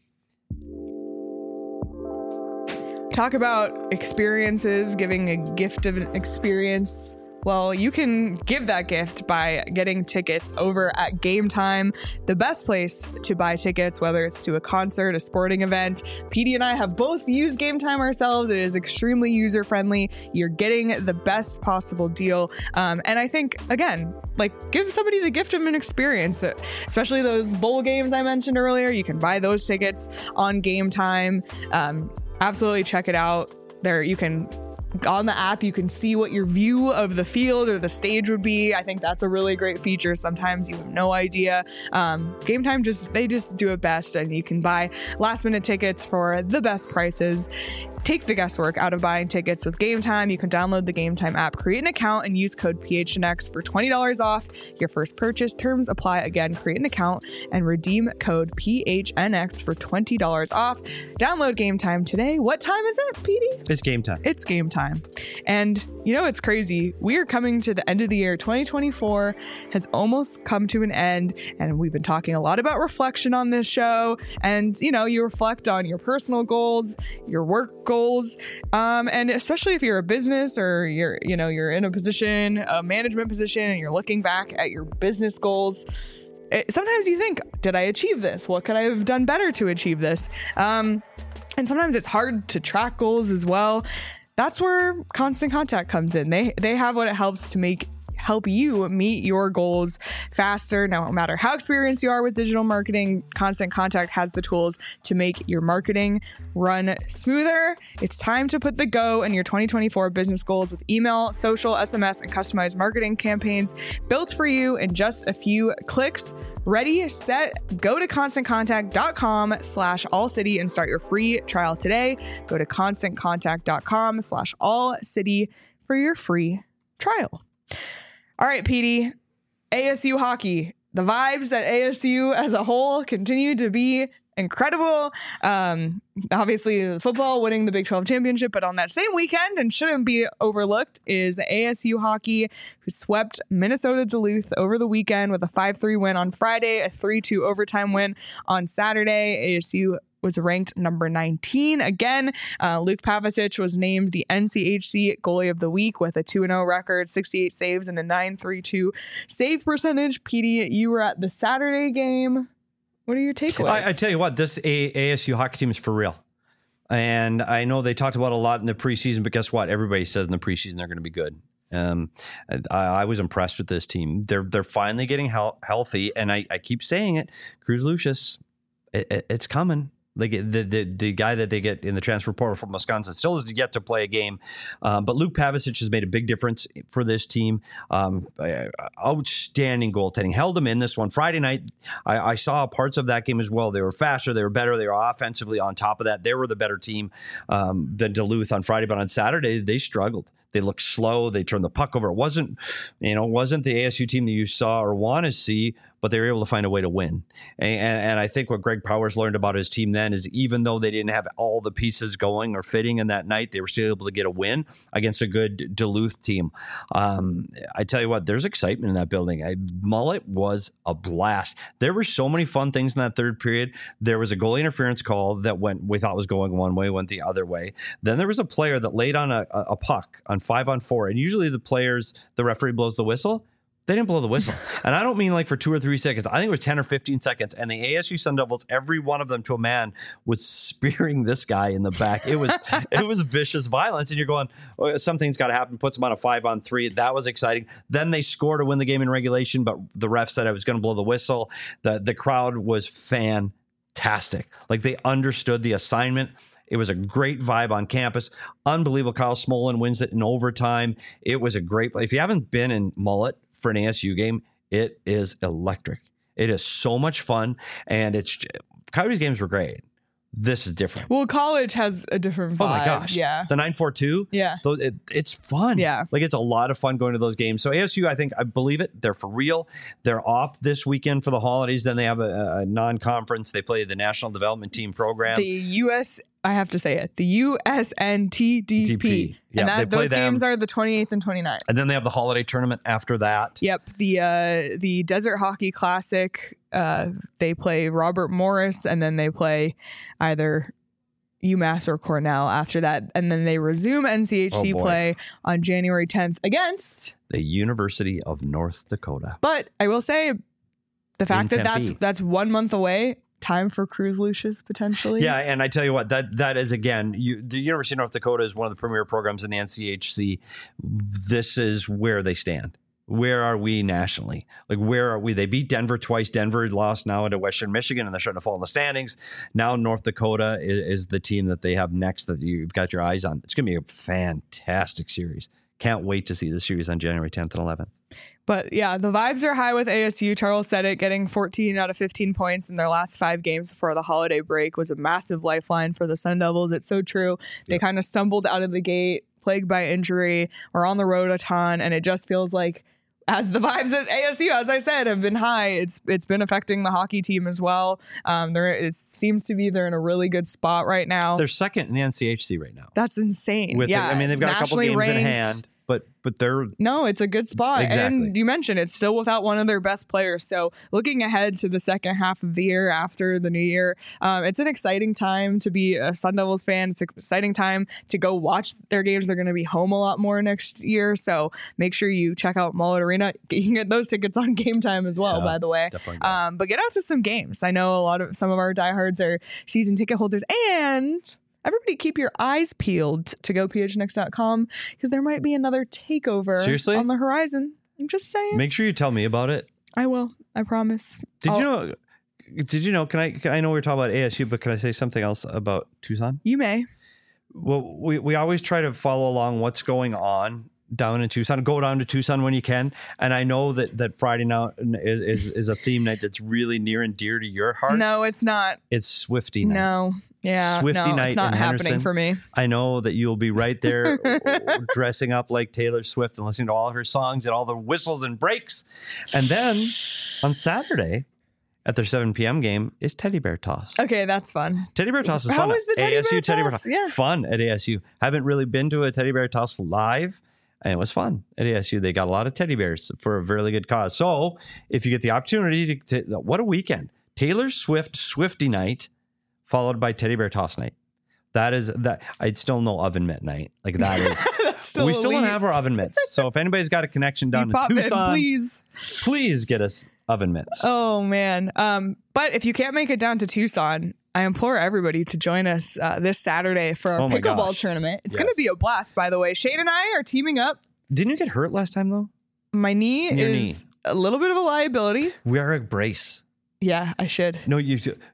Talk about experiences, giving a gift of an experience. Well, you can give that gift by getting tickets over at Game Time, the best place to buy tickets, whether it's to a concert, a sporting event. P D and I have both used Game Time ourselves. It is extremely user-friendly. You're getting the best possible deal. Um, and I think, again, like, give somebody the gift of an experience, especially those bowl games I mentioned earlier. You can buy those tickets on Game Time. Um, absolutely check it out. There, you can... On the app, you can see what your view of the field or the stage would be. I think that's a really great feature. Sometimes you have no idea. Um, Game Time, just they just do it best, and you can buy last minute tickets for the best prices. take the guesswork out of buying tickets with Game Time. You can download the Game Time app, create an account, and use code P H N X for twenty dollars off your first purchase. Terms apply. Again, create an account and redeem code P H N X for twenty dollars off. Download Game Time today. What time is it, P D? It's game time. It's game time. And you know, it's crazy. We are coming to the end of the year. twenty twenty-four has almost come to an end. And we've been talking a lot about reflection on this show. And, you know, you reflect on your personal goals, your work goals. Um, and especially if you're a business or you're, you know, you're in a position, a management position, and you're looking back at your business goals. It, sometimes you think, did I achieve this? What could I have done better to achieve this? Um, and sometimes it's hard to track goals as well. That's where Constant Contact comes in. They they have what it helps to make help you meet your goals faster. No matter how experienced you are with digital marketing, Constant Contact has the tools to make your marketing run smoother. It's time to put the go in your twenty twenty-four business goals with email, social, S M S, and customized marketing campaigns built for you in just a few clicks. Ready, set, go to constantcontact.com slash all city and start your free trial today. Go to constantcontact.com slash all city for your free trial. All right, P D, A S U hockey. The vibes at A S U as a whole continue to be incredible. Um, obviously, football winning the Big twelve championship, but on that same weekend, and shouldn't be overlooked, is A S U hockey, who swept Minnesota Duluth over the weekend with a five three win on Friday, a three two overtime win on Saturday. A S U was ranked number nineteen. Again, uh, Luke Pavicic was named the N C H C Goalie of the Week with a two and oh record, sixty-eight saves, and a nine thirty-two save percentage. P D, you were at the Saturday game. What are your takeaways? I, I tell you what, this A- ASU hockey team is for real. And I know they talked about a lot in the preseason, but guess what? Everybody says in the preseason they're going to be good. Um, I, I was impressed with this team. They're they're finally getting he- healthy, and I, I keep saying it. Cruz Lucius, it, it, it's coming. Like the, the the guy that they get in the transfer portal from Wisconsin still has yet to play a game, um, but Luke Pavicic has made a big difference for this team. Um, outstanding goaltending, held them in this one Friday night. I, I saw parts of that game as well. They were faster, they were better, they were offensively on top of that. They were the better team um, than Duluth on Friday, but on Saturday they struggled. They looked slow. They turned the puck over. It wasn't, you know, wasn't the A S U team that you saw or want to see, but they were able to find a way to win. And, and I think what Greg Powers learned about his team then is even though they didn't have all the pieces going or fitting in that night, they were still able to get a win against a good Duluth team. Um, I tell you what, there's excitement in that building. I, Mullet was a blast. There were so many fun things in that third period. There was a goalie interference call that went we thought was going one way, went the other way. Then there was a player that laid on a, a puck on five on four. And usually the players, the referee blows the whistle. They didn't blow the whistle. And I don't mean like for two or three seconds. I think it was ten or fifteen seconds. And the A S U Sun Devils, every one of them to a man, was spearing this guy in the back. It was it was vicious violence. And you're going, oh, something's got to happen. Puts them on a five on three. That was exciting. Then they scored to win the game in regulation, but the ref said I was going to blow the whistle. The, the crowd was fantastic. Like they understood the assignment. It was a great vibe on campus. Unbelievable. Kyle Smolin wins it in overtime. It was a great play. If you haven't been in Mullet for an A S U game, it is electric. It is so much fun. And it's Coyotes games were great. This is different. Well, college has a different vibe. Oh my gosh. Yeah. The nine four two. Yeah. It, it's fun. Yeah. Like it's a lot of fun going to those games. So A S U, I think, I believe it. They're for real. They're off this weekend for the holidays. Then they have a, a non-conference. They play the National Development Team program. The U S, I have to say it, the U S N T D P. T P. Yeah, and they that, play those them. games are the twenty-eighth and twenty-ninth. And then they have the holiday tournament after that. Yep. The uh, the Desert Hockey Classic, uh, they play Robert Morris, and then they play either UMass or Cornell after that. And then they resume N C H C Oh, boy. play on January tenth against The University of North Dakota. But I will say the fact In that that's Tempe. that's one month away, time for Cruz Lucius potentially. Yeah, and I tell you what, that that is again, you, the University of North Dakota is one of the premier programs in the N C H C. This is where they stand. Where are we nationally? Like, where are we? They beat Denver twice. Denver lost now into Western Michigan, and they're starting to fall in the standings. Now North Dakota is, is the team that they have next that you've got your eyes on. It's going to be a fantastic series. Can't wait to see the series on January tenth and eleventh. But yeah, the vibes are high with A S U. Charles said it, getting fourteen out of fifteen points in their last five games before the holiday break was a massive lifeline for the Sun Devils. It's so true. They Yep. kind of stumbled out of the gate, plagued by injury, or on the road a ton, and it just feels like as the vibes at A S U, as I said, have been high, it's it's been affecting the hockey team as well. Um, there it seems to be they're in a really good spot right now. They're second in the N C H C right now. That's insane. With yeah, the, I mean, they've got a couple nationally games ranked. in hand, but but they're No, it's a good spot. Exactly. And you mentioned it's still without one of their best players. So looking ahead to the second half of the year after the new year, um, it's an exciting time to be a Sun Devils fan. It's an exciting time to go watch their games. They're going to be home a lot more next year. So make sure you check out Mullet Arena. You can get those tickets on Game Time as well, Yeah, by the way. definitely go. Um, but get out to some games. I know a lot of some of our diehards are season ticket holders, and everybody keep your eyes peeled to go p h n x dot com because there might be another takeover Seriously? on the horizon. I'm just saying. make sure you tell me about it. I will. I promise. Did I'll- you know? Did you know? Can I? Can, I know we we're talking about A S U, but can I say something else about Tucson? You may. Well, we we always try to follow along what's going on down in Tucson. Go down to Tucson when you can. And I know that that Friday night is is, is a theme night that's really near and dear to your heart. No, it's not. It's Swifty night. No. Yeah. Swifty no, night it's not in happening Henderson. for me. I know that you'll be right there dressing up like Taylor Swift and listening to all of her songs and all the whistles and breaks. And then on Saturday at their seven p.m. game is Teddy Bear Toss. Okay, that's fun. Teddy Bear Toss is How fun. was the Teddy A S U Bear Teddy Bear Toss? Toss. Yeah. Fun at A S U. Haven't really been to a Teddy Bear Toss live. And it was fun at A S U. They got a lot of teddy bears for a really good cause. So if you get the opportunity to, to what a weekend. Taylor Swift Swifty night followed by Teddy Bear Toss night. That is that. I'd still no oven mitt night. Like that is. That's still we still don't elite. have our oven mitts. So if anybody's got a connection down Steve to Potvin, Tucson, please. please get us oven mitts. Oh man. Um, but if you can't make it down to Tucson, I implore everybody to join us uh, this Saturday for our Oh my pickleball gosh. tournament. It's Yes. going to be a blast, by the way. Shane and I are teaming up. Didn't you get hurt last time though? My knee Your is a little bit of a liability. Wear a brace. Yeah, I should. No, you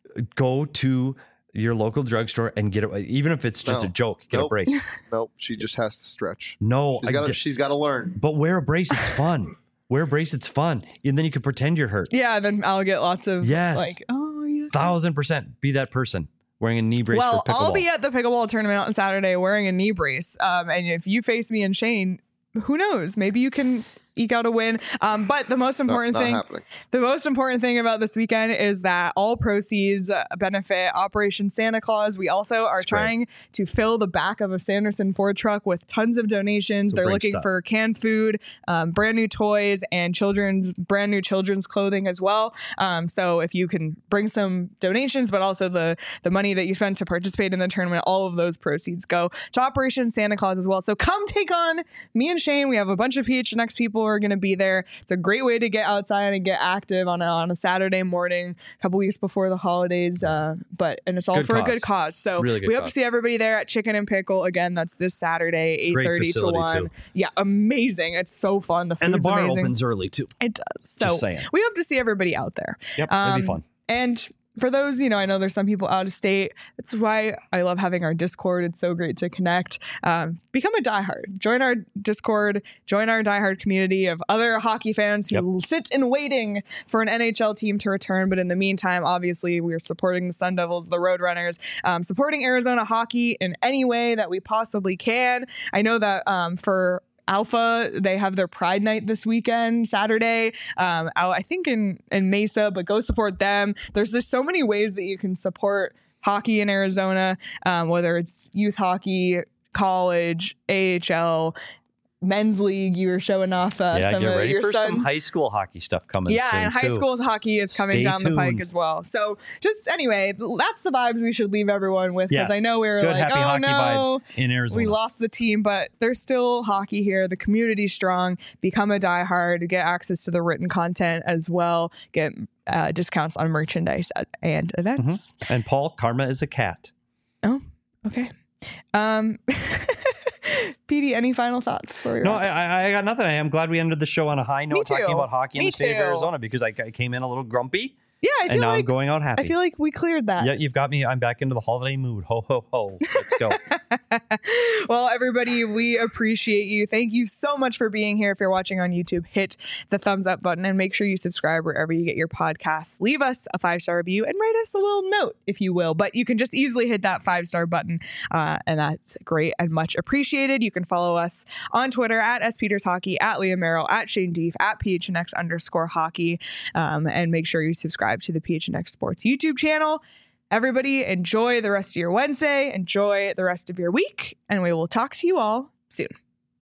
go to your local drugstore and get it. Even if it's just No. a joke, get a Nope. brace. Nope, she just has to stretch. No, She's I got to. get- She's got to learn. but wear a brace. It's fun. Wear a brace. It's fun, and then you can pretend you're hurt. Yeah, then I'll get lots of Yes. like, oh, yes. Thousand percent. Be that person wearing a knee brace Well, for pickleball. I'll be at the pickleball tournament on Saturday wearing a knee brace. Um, and if you face me and Shane, who knows? Maybe you can eke out a win. Um, but the most No, important not thing, happening. the most important thing about this weekend is that all proceeds uh, benefit Operation Santa Claus. We also are That's great. trying to fill the back of a Sanderson Ford truck with tons of donations. So They're bring looking stuff. for canned food, um, brand new toys, and children's brand new children's clothing as well. Um, so if you can bring some donations, but also the the money that you spent to participate in the tournament, all of those proceeds go to Operation Santa Claus as well. So come take on me and Shane. We have a bunch of P H N X people who are going to be there. It's a great way to get outside and get active on a, on a Saturday morning, a couple weeks before the holidays. Uh, but and it's all Good for a cause. good cause. So Really good we hope cause. to see everybody there at Chicken and Pickle again. That's this Saturday, eight Great thirty to facility, one. too. Yeah, amazing. It's so fun. The food's and the bar amazing. opens early too. It does. So Just saying. we hope to see everybody out there. Yep, that'd Um, be fun. And for those, you know, I know there's some people out of state. That's why I love having our Discord. It's so great to connect. Um, become a diehard. Join our Discord. Join our diehard community of other hockey fans who sit in waiting for an N H L team to return. But in the meantime, obviously, we're supporting the Sun Devils, the Roadrunners, um, supporting Arizona hockey in any way that we possibly can. I know that um, for Alpha, they have their Pride Night this weekend, Saturday, um, out, I think in, in Mesa, but go support them. There's just so many ways that you can support hockey in Arizona, um, whether it's youth hockey, college, A H L, men's league. You were showing off uh, yeah, some get of ready your for sons. some high school hockey stuff coming Yeah, soon and high too. school hockey is coming Stay down the pike tuned. as well. So just anyway, that's the vibes we should leave everyone with, because Yes. I know we were Good, like, happy oh hockey no, vibes in Arizona. we lost the team, but there's still hockey here. The community's strong. Become a diehard. Get access to the written content as well. Get uh, discounts on merchandise at- and events. And Paul, karma is a cat. Oh, okay. Um, Petey, any final thoughts for your No, I, I- I got nothing. I am glad we ended the show on a high note too. talking about hockey in Me the state too. of Arizona, because I, I came in a little grumpy Yeah, I feel and now like I'm going out happy. I feel like we cleared that. Yeah, you've got me. I'm back into the holiday mood. Ho, ho, ho. Let's go. Well, everybody, we appreciate you. Thank you so much for being here. If you're watching on YouTube, hit the thumbs up button and make sure you subscribe wherever you get your podcasts. Leave us a five-star review and write us a little note, if you will. But you can just easily hit that five-star button, uh, and that's great and much appreciated. You can follow us on Twitter at S Peters Hockey, at Liam Merrill, at Shane Deef, at P H N X underscore hockey, um, and make sure you subscribe to the P H N X Sports YouTube channel. Everybody, enjoy the rest of your Wednesday. Enjoy the rest of your week, and we will talk to you all soon.